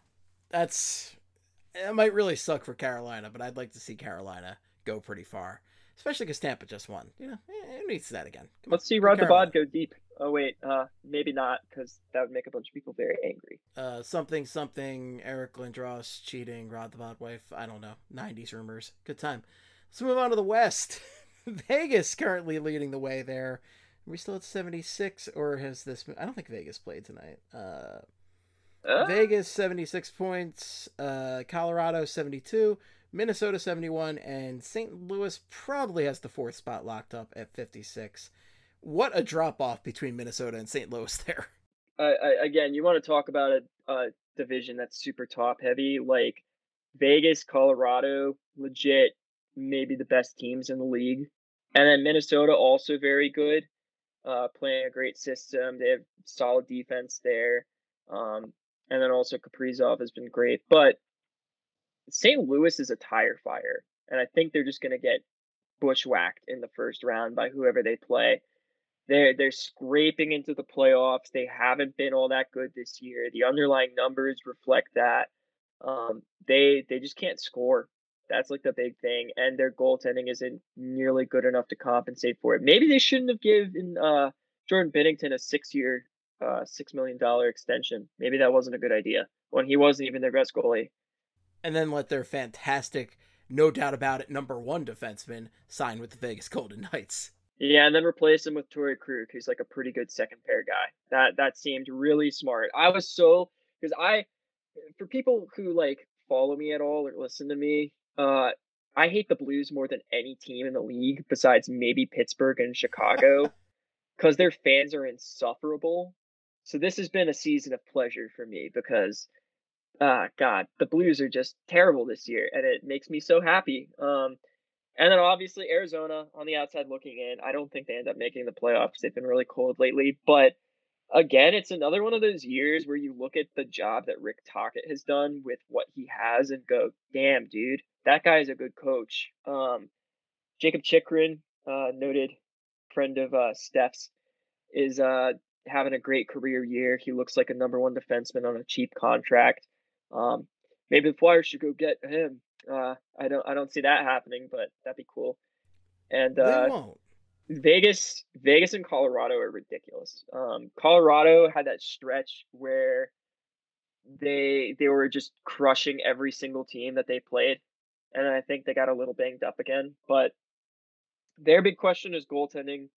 it might really suck for Carolina, but I'd like to see Carolina go pretty far, especially because Tampa just won. Who needs that again? Let's see Rod Debod go deep. Oh wait, maybe not, because that would make a bunch of people very angry. Something. Eric Lindros cheating. Rod Debod wife. I don't know. 90s rumors. Good time. Let's move on to the West. Vegas currently leading the way there. Are we still at 76, or has this? I don't think Vegas played tonight. Vegas 76 points. Colorado 72. Minnesota 71, and St. Louis probably has the 4th spot locked up at 56. What a drop off between Minnesota and St. Louis there. Again, you want to talk about a division that's super top heavy, like Vegas, Colorado, legit, maybe the best teams in the league. And then Minnesota also very good, playing a great system. They have solid defense there. And then also Kaprizov has been great. But St. Louis is a tire fire, and I think they're just going to get bushwhacked in the first round by whoever they play. They're scraping into the playoffs. They haven't been all that good this year. The underlying numbers reflect that. They just can't score. That's like the big thing, and their goaltending isn't nearly good enough to compensate for it. Maybe they shouldn't have given Jordan Binnington a 6-year, $6 million extension. Maybe that wasn't a good idea when he wasn't even their best goalie. And then let their fantastic, no doubt about it, number 1 defenseman sign with the Vegas Golden Knights. Yeah, and then replace him with Torrey Krug, who's like a pretty good second pair guy. That seemed really smart. For people who like follow me at all or listen to me, I hate the Blues more than any team in the league besides maybe Pittsburgh and Chicago, because their fans are insufferable. So this has been a season of pleasure for me because, God, the Blues are just terrible this year, and it makes me so happy. And then obviously Arizona on the outside looking in. I don't think they end up making the playoffs. They've been really cold lately. But again, it's another one of those years where you look at the job that Rick Tocchet has done with what he has and go, damn, dude, that guy is a good coach. Jacob Chychrun, noted friend of Steph's, is having a great career year. He looks like a number 1 defenseman on a cheap contract. Maybe the Flyers should go get him. I don't see that happening, but that'd be cool. And They won't. Vegas and Colorado are ridiculous. Colorado had that stretch where they were just crushing every single team that they played, and I think they got a little banged up again. But their big question is goaltending.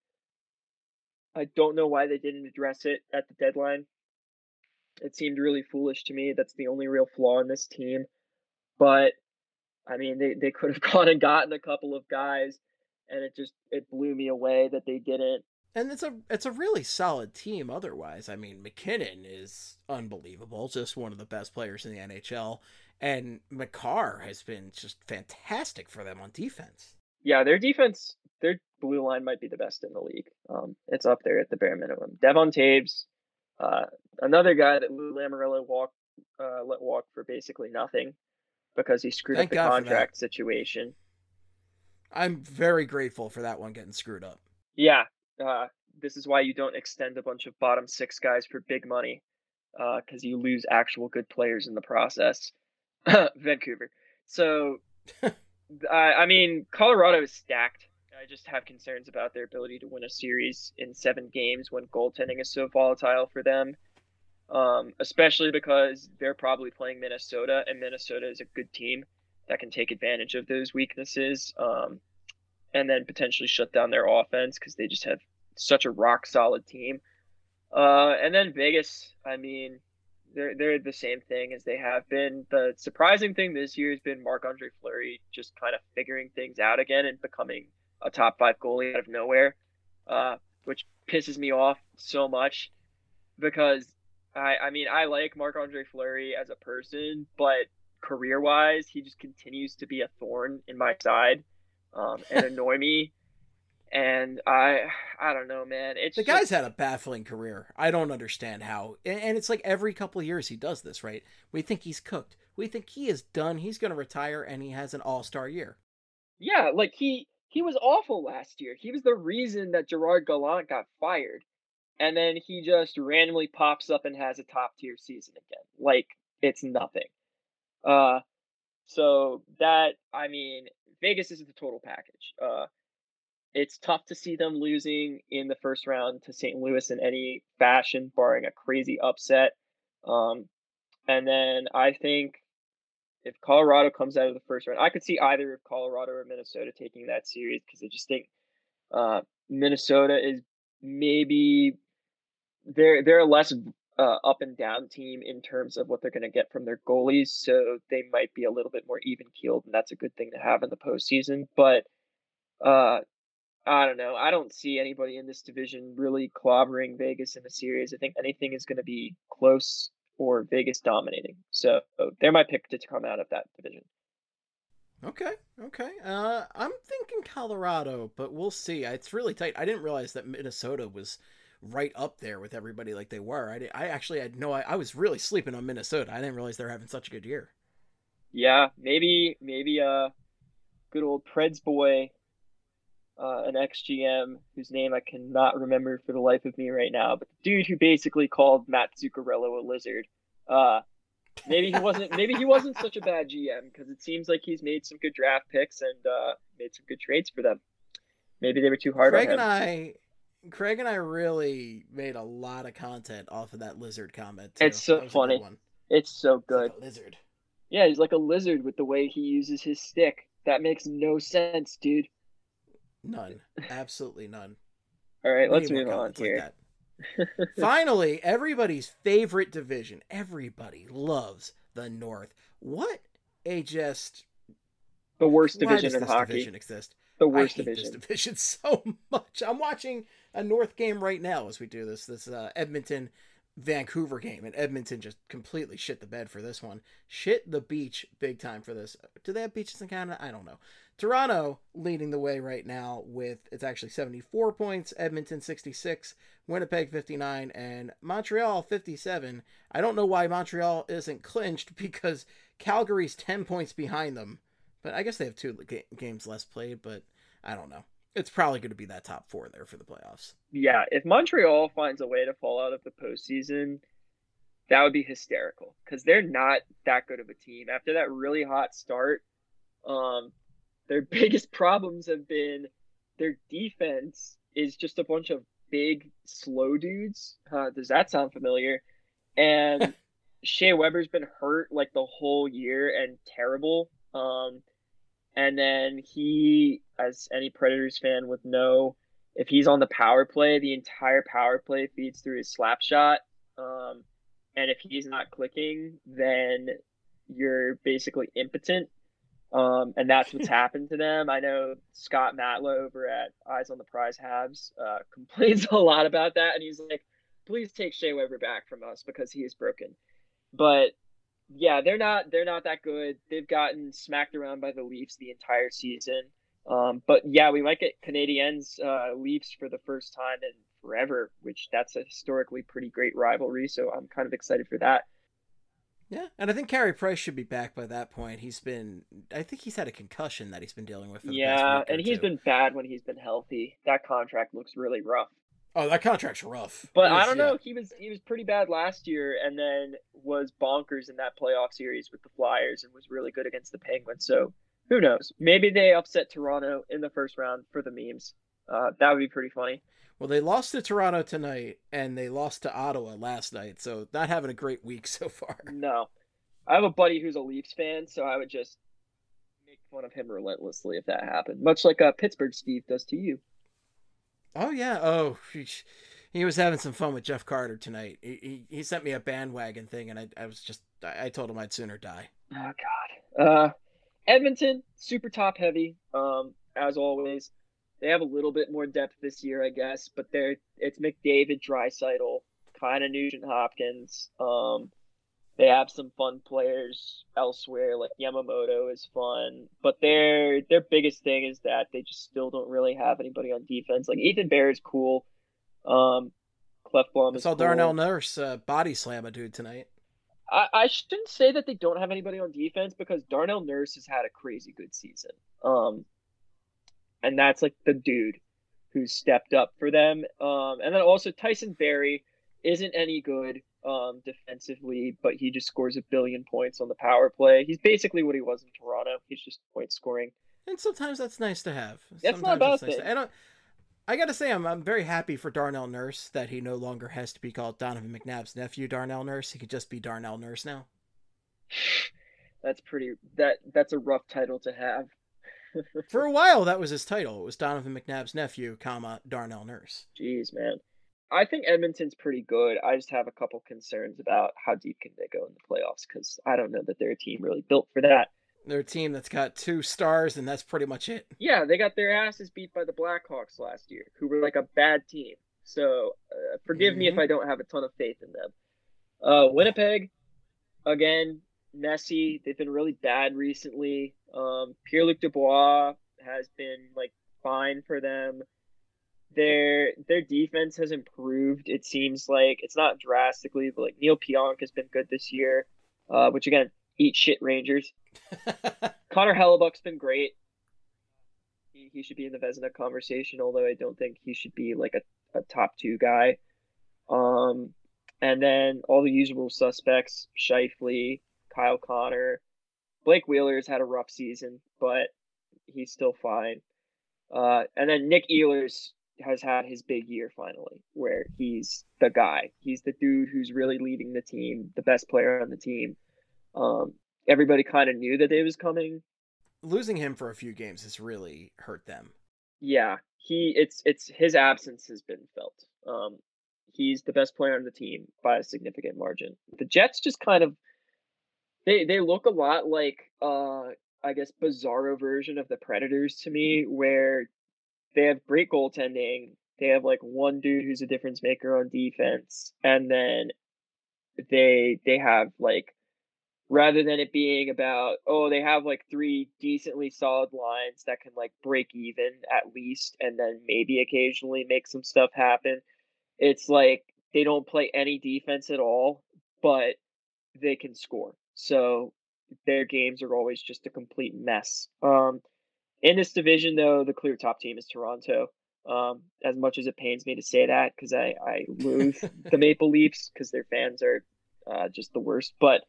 I don't know why they didn't address it at the deadline. It seemed really foolish to me. That's the only real flaw in this team. But I mean, they could have gone and gotten a couple of guys, and it blew me away that they didn't. And it's a really solid team otherwise. I mean, McKinnon is unbelievable, just one of the best players in the NHL, and Makar has been just fantastic for them on defense. Yeah, their defense, their blue line might be the best in the league. It's up there at the bare minimum. Devon Taves, another guy that Lou Lamoriello let walk for basically nothing because he screwed up the contract situation. I'm very grateful for that one getting screwed up. Yeah, this is why you don't extend a bunch of bottom 6 guys for big money, because you lose actual good players in the process. Vancouver. So, I mean, Colorado is stacked. I just have concerns about their ability to win a series in 7 games when goaltending is so volatile for them, especially because they're probably playing Minnesota, and Minnesota is a good team that can take advantage of those weaknesses, and then potentially shut down their offense because they just have such a rock solid team. And then Vegas, I mean, they're the same thing as they have been. The surprising thing this year has been Marc-Andre Fleury just kind of figuring things out again and becoming a top 5 goalie out of nowhere, which pisses me off so much because I mean, I like Marc-Andre Fleury as a person, but career-wise, he just continues to be a thorn in my side and annoy me. And I don't know, man. The guy's had a baffling career. I don't understand how. And it's like every couple of years he does this, right? We think he's cooked. We think he is done. He's going to retire, and he has an all-star year. Yeah, like he he was awful last year. He was the reason that Gerard Gallant got fired. And then he just randomly pops up and has a top tier season again. Like, it's nothing. So that, I mean, Vegas is the total package. It's tough to see them losing in the first round to St. Louis in any fashion, barring a crazy upset. And then I think if Colorado comes out of the first round, I could see either of Colorado or Minnesota taking that series, because I just think Minnesota is maybe they're a less up and down team in terms of what they're going to get from their goalies, so they might be a little bit more even keeled, and that's a good thing to have in the postseason. But I don't know. I don't see anybody in this division really clobbering Vegas in the series. I think anything is going to be close or Vegas dominating. So they're my pick to come out of that division. Okay. I'm thinking Colorado, but we'll see. It's really tight. I didn't realize that Minnesota was right up there with everybody like they were. I actually had I was really sleeping on Minnesota. I didn't realize they were having such a good year. Yeah, maybe good old Preds boy, an ex-GM whose name I cannot remember for the life of me right now, but the dude who basically called Matt Zuccarello a lizard. Maybe he wasn't such a bad GM, because it seems like he's made some good draft picks and made some good trades for them. Maybe they were too hard on him. Craig and I really made a lot of content off of that lizard comment too. It's so funny. It's so good. Like a lizard. Yeah, he's like a lizard with the way he uses his stick. That makes no sense, dude. None. Absolutely none. All right, let's move on here. Like Finally, everybody's favorite division. Everybody loves the North. What a just... The worst division in this hockey. Division exist? The worst I hate division. This division so much. I'm watching a North game right now as we do this Edmonton Vancouver game, and Edmonton just completely shit the bed for this one. Shit the beach big time for this. Do they have beaches in Canada? I don't know. Toronto leading the way right now with, it's actually 74 points, Edmonton 66, Winnipeg 59, and Montreal 57. I don't know why Montreal isn't clinched, because Calgary's 10 points behind them. But I guess they have 2 games less played, but I don't know. It's probably going to be that top 4 there for the playoffs. Yeah, if Montreal finds a way to fall out of the postseason, that would be hysterical, because they're not that good of a team. After that really hot start, their biggest problems have been their defense is just a bunch of big, slow dudes. Does that sound familiar? And Shea Weber's been hurt like the whole year and terrible. And then he, as any Predators fan would know, if he's on the power play, the entire power play feeds through his slap shot. And if he's not clicking, then you're basically impotent. And that's what's happened to them. I know Scott Matlow over at Eyes on the Prize Habs complains a lot about that. And he's like, please take Shea Weber back from us because he is broken. But yeah, they're not that good. They've gotten smacked around by the Leafs the entire season. But yeah, we might get Canadiens Leafs for the first time in forever, which that's a historically pretty great rivalry. So I'm kind of excited for that. Yeah, and I think Carey Price should be back by that point. I think he's had a concussion that he's been dealing with. For the past week or and he's two. been bad when he's been healthy. That contract looks really rough. Oh, that contract's rough. But I don't know. He was pretty bad last year, and then was bonkers in that playoff series with the Flyers, and was really good against the Penguins. So who knows? Maybe they upset Toronto in the first round for the memes. That would be pretty funny. Well, they lost to Toronto tonight, and they lost to Ottawa last night, so not having a great week so far. No. I have a buddy who's a Leafs fan, so I would just make fun of him relentlessly if that happened. Much like Pittsburgh Steve does to you. Oh, yeah. Oh, he was having some fun with Jeff Carter tonight. He sent me a bandwagon thing, and I told him I'd sooner die. Oh, God. Edmonton, super top heavy, as always. They have a little bit more depth this year, I guess, but it's McDavid, Draisaitl, kind of Nugent Hopkins. They have some fun players elsewhere, like Yamamoto is fun, but their biggest thing is that they just still don't really have anybody on defense. Like Ethan Bear is cool. Clefbaum is cool. I saw Darnell Nurse body slam a dude tonight. I shouldn't say that they don't have anybody on defense, because Darnell Nurse has had a crazy good season. and that's like the dude who stepped up for them. And then also Tyson Berry isn't any good defensively, but he just scores 1 billion points on the power play. He's basically what he was in Toronto. He's just point scoring. And sometimes that's nice to have. That's not a bad thing. And I got to say, I'm very happy for Darnell Nurse that he no longer has to be called Donovan McNabb's nephew, Darnell Nurse. He could just be Darnell Nurse now. That's a rough title to have. For a while, that was his title. It was Donovan McNabb's nephew, Darnell Nurse. Jeez, man. I think Edmonton's pretty good. I just have a couple concerns about how deep can they go in the playoffs, because I don't know that they're a team really built for that. They're a team that's got 2 stars, and that's pretty much it. Yeah, they got their asses beat by the Blackhawks last year, who were like a bad team. So forgive me if I don't have a ton of faith in them. Winnipeg, again, messy. They've been really bad recently. Pierre-Luc Dubois has been like fine for them. Their defense has improved. It seems like it's not drastically, but like Neil Pionk has been good this year. Which again, eat shit, Rangers. Connor Hellebuck's been great. He should be in the Vezina conversation, although I don't think he should be like a top 2 guy. And then all the usual suspects: Scheifele, Kyle Connor. Blake Wheeler's had a rough season, but he's still fine. And then Nick Ehlers has had his big year finally, where he's the guy. He's the dude who's really leading the team, the best player on the team. Everybody kind of knew that it was coming. Losing him for a few games has really hurt them. Yeah, it's his absence has been felt. He's the best player on the team by a significant margin. The Jets just kind of they look a lot like I guess bizarro version of the Predators to me, where they have great goaltending. They have like one dude who's a difference maker on defense, and then they have like, rather than it being about, they have like 3 decently solid lines that can like break even at least, and then maybe occasionally make some stuff happen. It's like they don't play any defense at all, but they can score. So their games are always just a complete mess. In this division, though, the clear top team is Toronto. As much as it pains me to say that, because I loathe the Maple Leafs because their fans are just the worst. But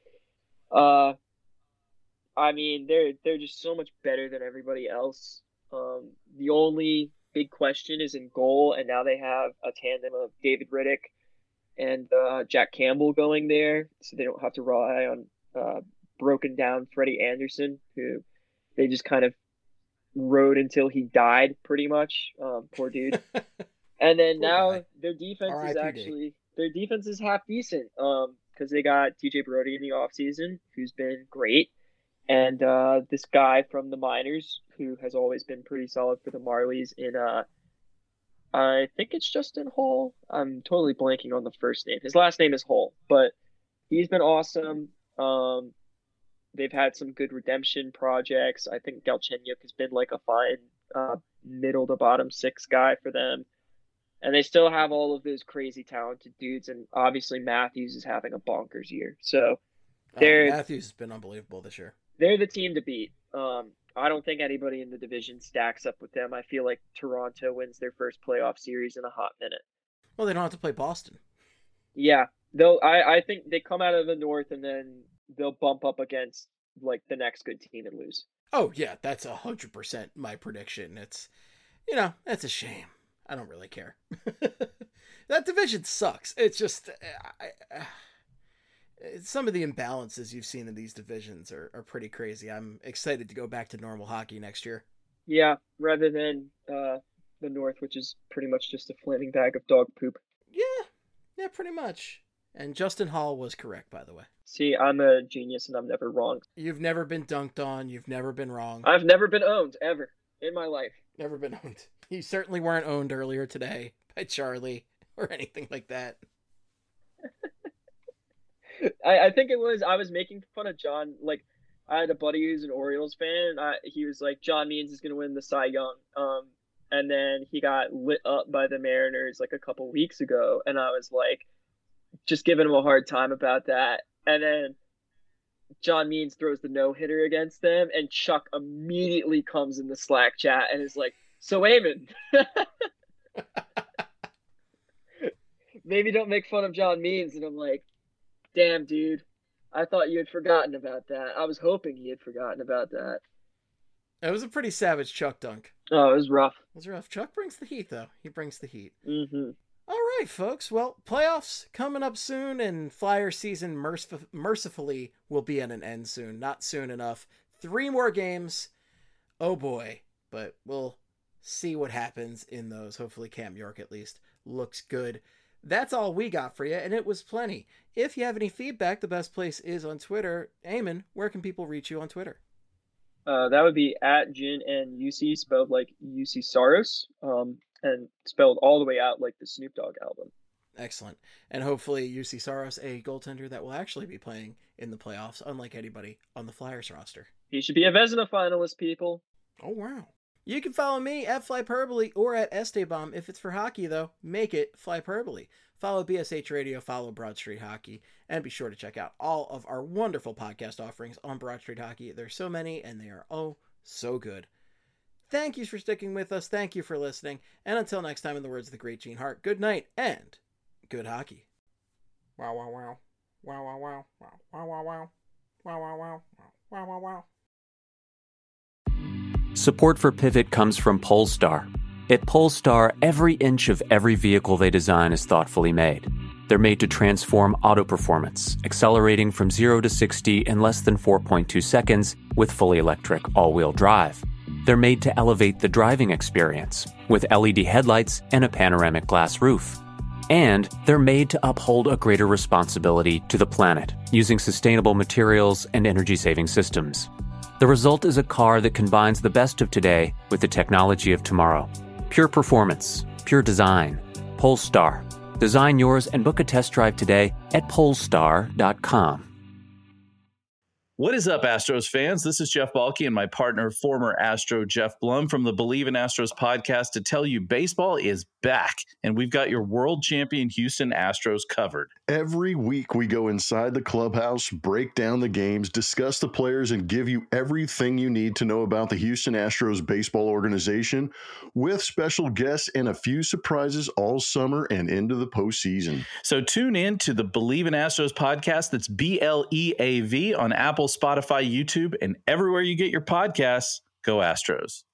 I mean, they're just so much better than everybody else. The only big question is in goal, and now they have a tandem of David Riddick and Jack Campbell going there, so they don't have to rely on broken down Freddie Anderson, who they just kind of rode until he died, pretty much. Poor dude. And then now their defense is half decent, because they got TJ Brody in the offseason, who's been great, and this guy from the minors who has always been pretty solid for the Marlies in I think it's Justin Hall. I'm totally blanking on the first name. His last name is Hall, but he's been awesome. They've had some good redemption projects. I think Galchenyuk has been like a fine middle to bottom 6 guy for them. And they still have all of those crazy talented dudes. And obviously Matthews is having a bonkers year. So Matthews has been unbelievable this year. They're the team to beat. I don't think anybody in the division stacks up with them. I feel like Toronto wins their first playoff series in a hot minute. Well, they don't have to play Boston. Yeah. I think they come out of the North and then they'll bump up against like the next good team and lose. Oh yeah, that's 100% my prediction. It's, that's a shame. I don't really care. That division sucks. It's just some of the imbalances you've seen in these divisions are pretty crazy. I'm excited to go back to normal hockey next year. Yeah, rather than the North, which is pretty much just a flaming bag of dog poop. Yeah, pretty much. And Justin Hall was correct, by the way. See, I'm a genius and I'm never wrong. You've never been dunked on. You've never been wrong. I've never been owned, ever, in my life. Never been owned. You certainly weren't owned earlier today by Charlie or anything like that. I think it was, I was making fun of John. Like, I had a buddy who's an Orioles fan. He was like, John Means is going to win the Cy Young. And then he got lit up by the Mariners like a couple weeks ago. And I was like, just giving him a hard time about that. And then John Means throws the no-hitter against them, and Chuck immediately comes in the Slack chat and is like, So Eamon, maybe don't make fun of John Means. And I'm like, damn, dude, I thought you had forgotten about that. I was hoping he had forgotten about that. It was a pretty savage Chuck dunk. Oh, it was rough. It was rough. Chuck brings the heat, though. He brings the heat. Mm-hmm. All right, folks. Well, playoffs coming up soon, and Flyer season mercifully will be at an end soon. Not soon enough. 3 more games. Oh, boy. But we'll see what happens in those. Hopefully Cam York, at least, looks good. That's all we got for you, and it was plenty. If you have any feedback, the best place is on Twitter. Eamon, where can people reach you on Twitter? That would be at Jin and UC, spelled like UC Saros, and spelled all the way out like the Snoop Dogg album. Excellent. And hopefully UC Saros, a goaltender that will actually be playing in the playoffs, unlike anybody on the Flyers roster. He should be a Vezina finalist, people. Oh, wow. You can follow me at Flyperbole or at Esteban. If it's for hockey, though, make it Flyperbole. Follow BSH Radio, follow Broad Street Hockey, and be sure to check out all of our wonderful podcast offerings on Broad Street Hockey. There's so many, and they are oh so good. Thank you for sticking with us. Thank you for listening. And until next time, in the words of the great Gene Hart, good night and good hockey. Wow, wow, wow. Wow, wow, wow. Wow, wow, wow. Wow, wow, wow. Wow, wow, wow. Support for Pivot comes from Polestar. At Polestar, every inch of every vehicle they design is thoughtfully made. They're made to transform auto performance, accelerating from 0 to 60 in less than 4.2 seconds with fully electric all-wheel drive. They're made to elevate the driving experience with LED headlights and a panoramic glass roof. And they're made to uphold a greater responsibility to the planet using sustainable materials and energy-saving systems. The result is a car that combines the best of today with the technology of tomorrow. Pure performance, pure design. Polestar. Design yours and book a test drive today at polestar.com. What is up, Astros fans? This is Jeff Balke and my partner, former Astro Jeff Blum from the Believe in Astros podcast to tell you baseball is back, and we've got your world champion Houston Astros covered. Every week we go inside the clubhouse, break down the games, discuss the players, and give you everything you need to know about the Houston Astros baseball organization with special guests and a few surprises all summer and into the postseason. So tune in to the Believe in Astros podcast. That's BLEAV on Apple, Spotify, YouTube, and everywhere you get your podcasts. Go Astros.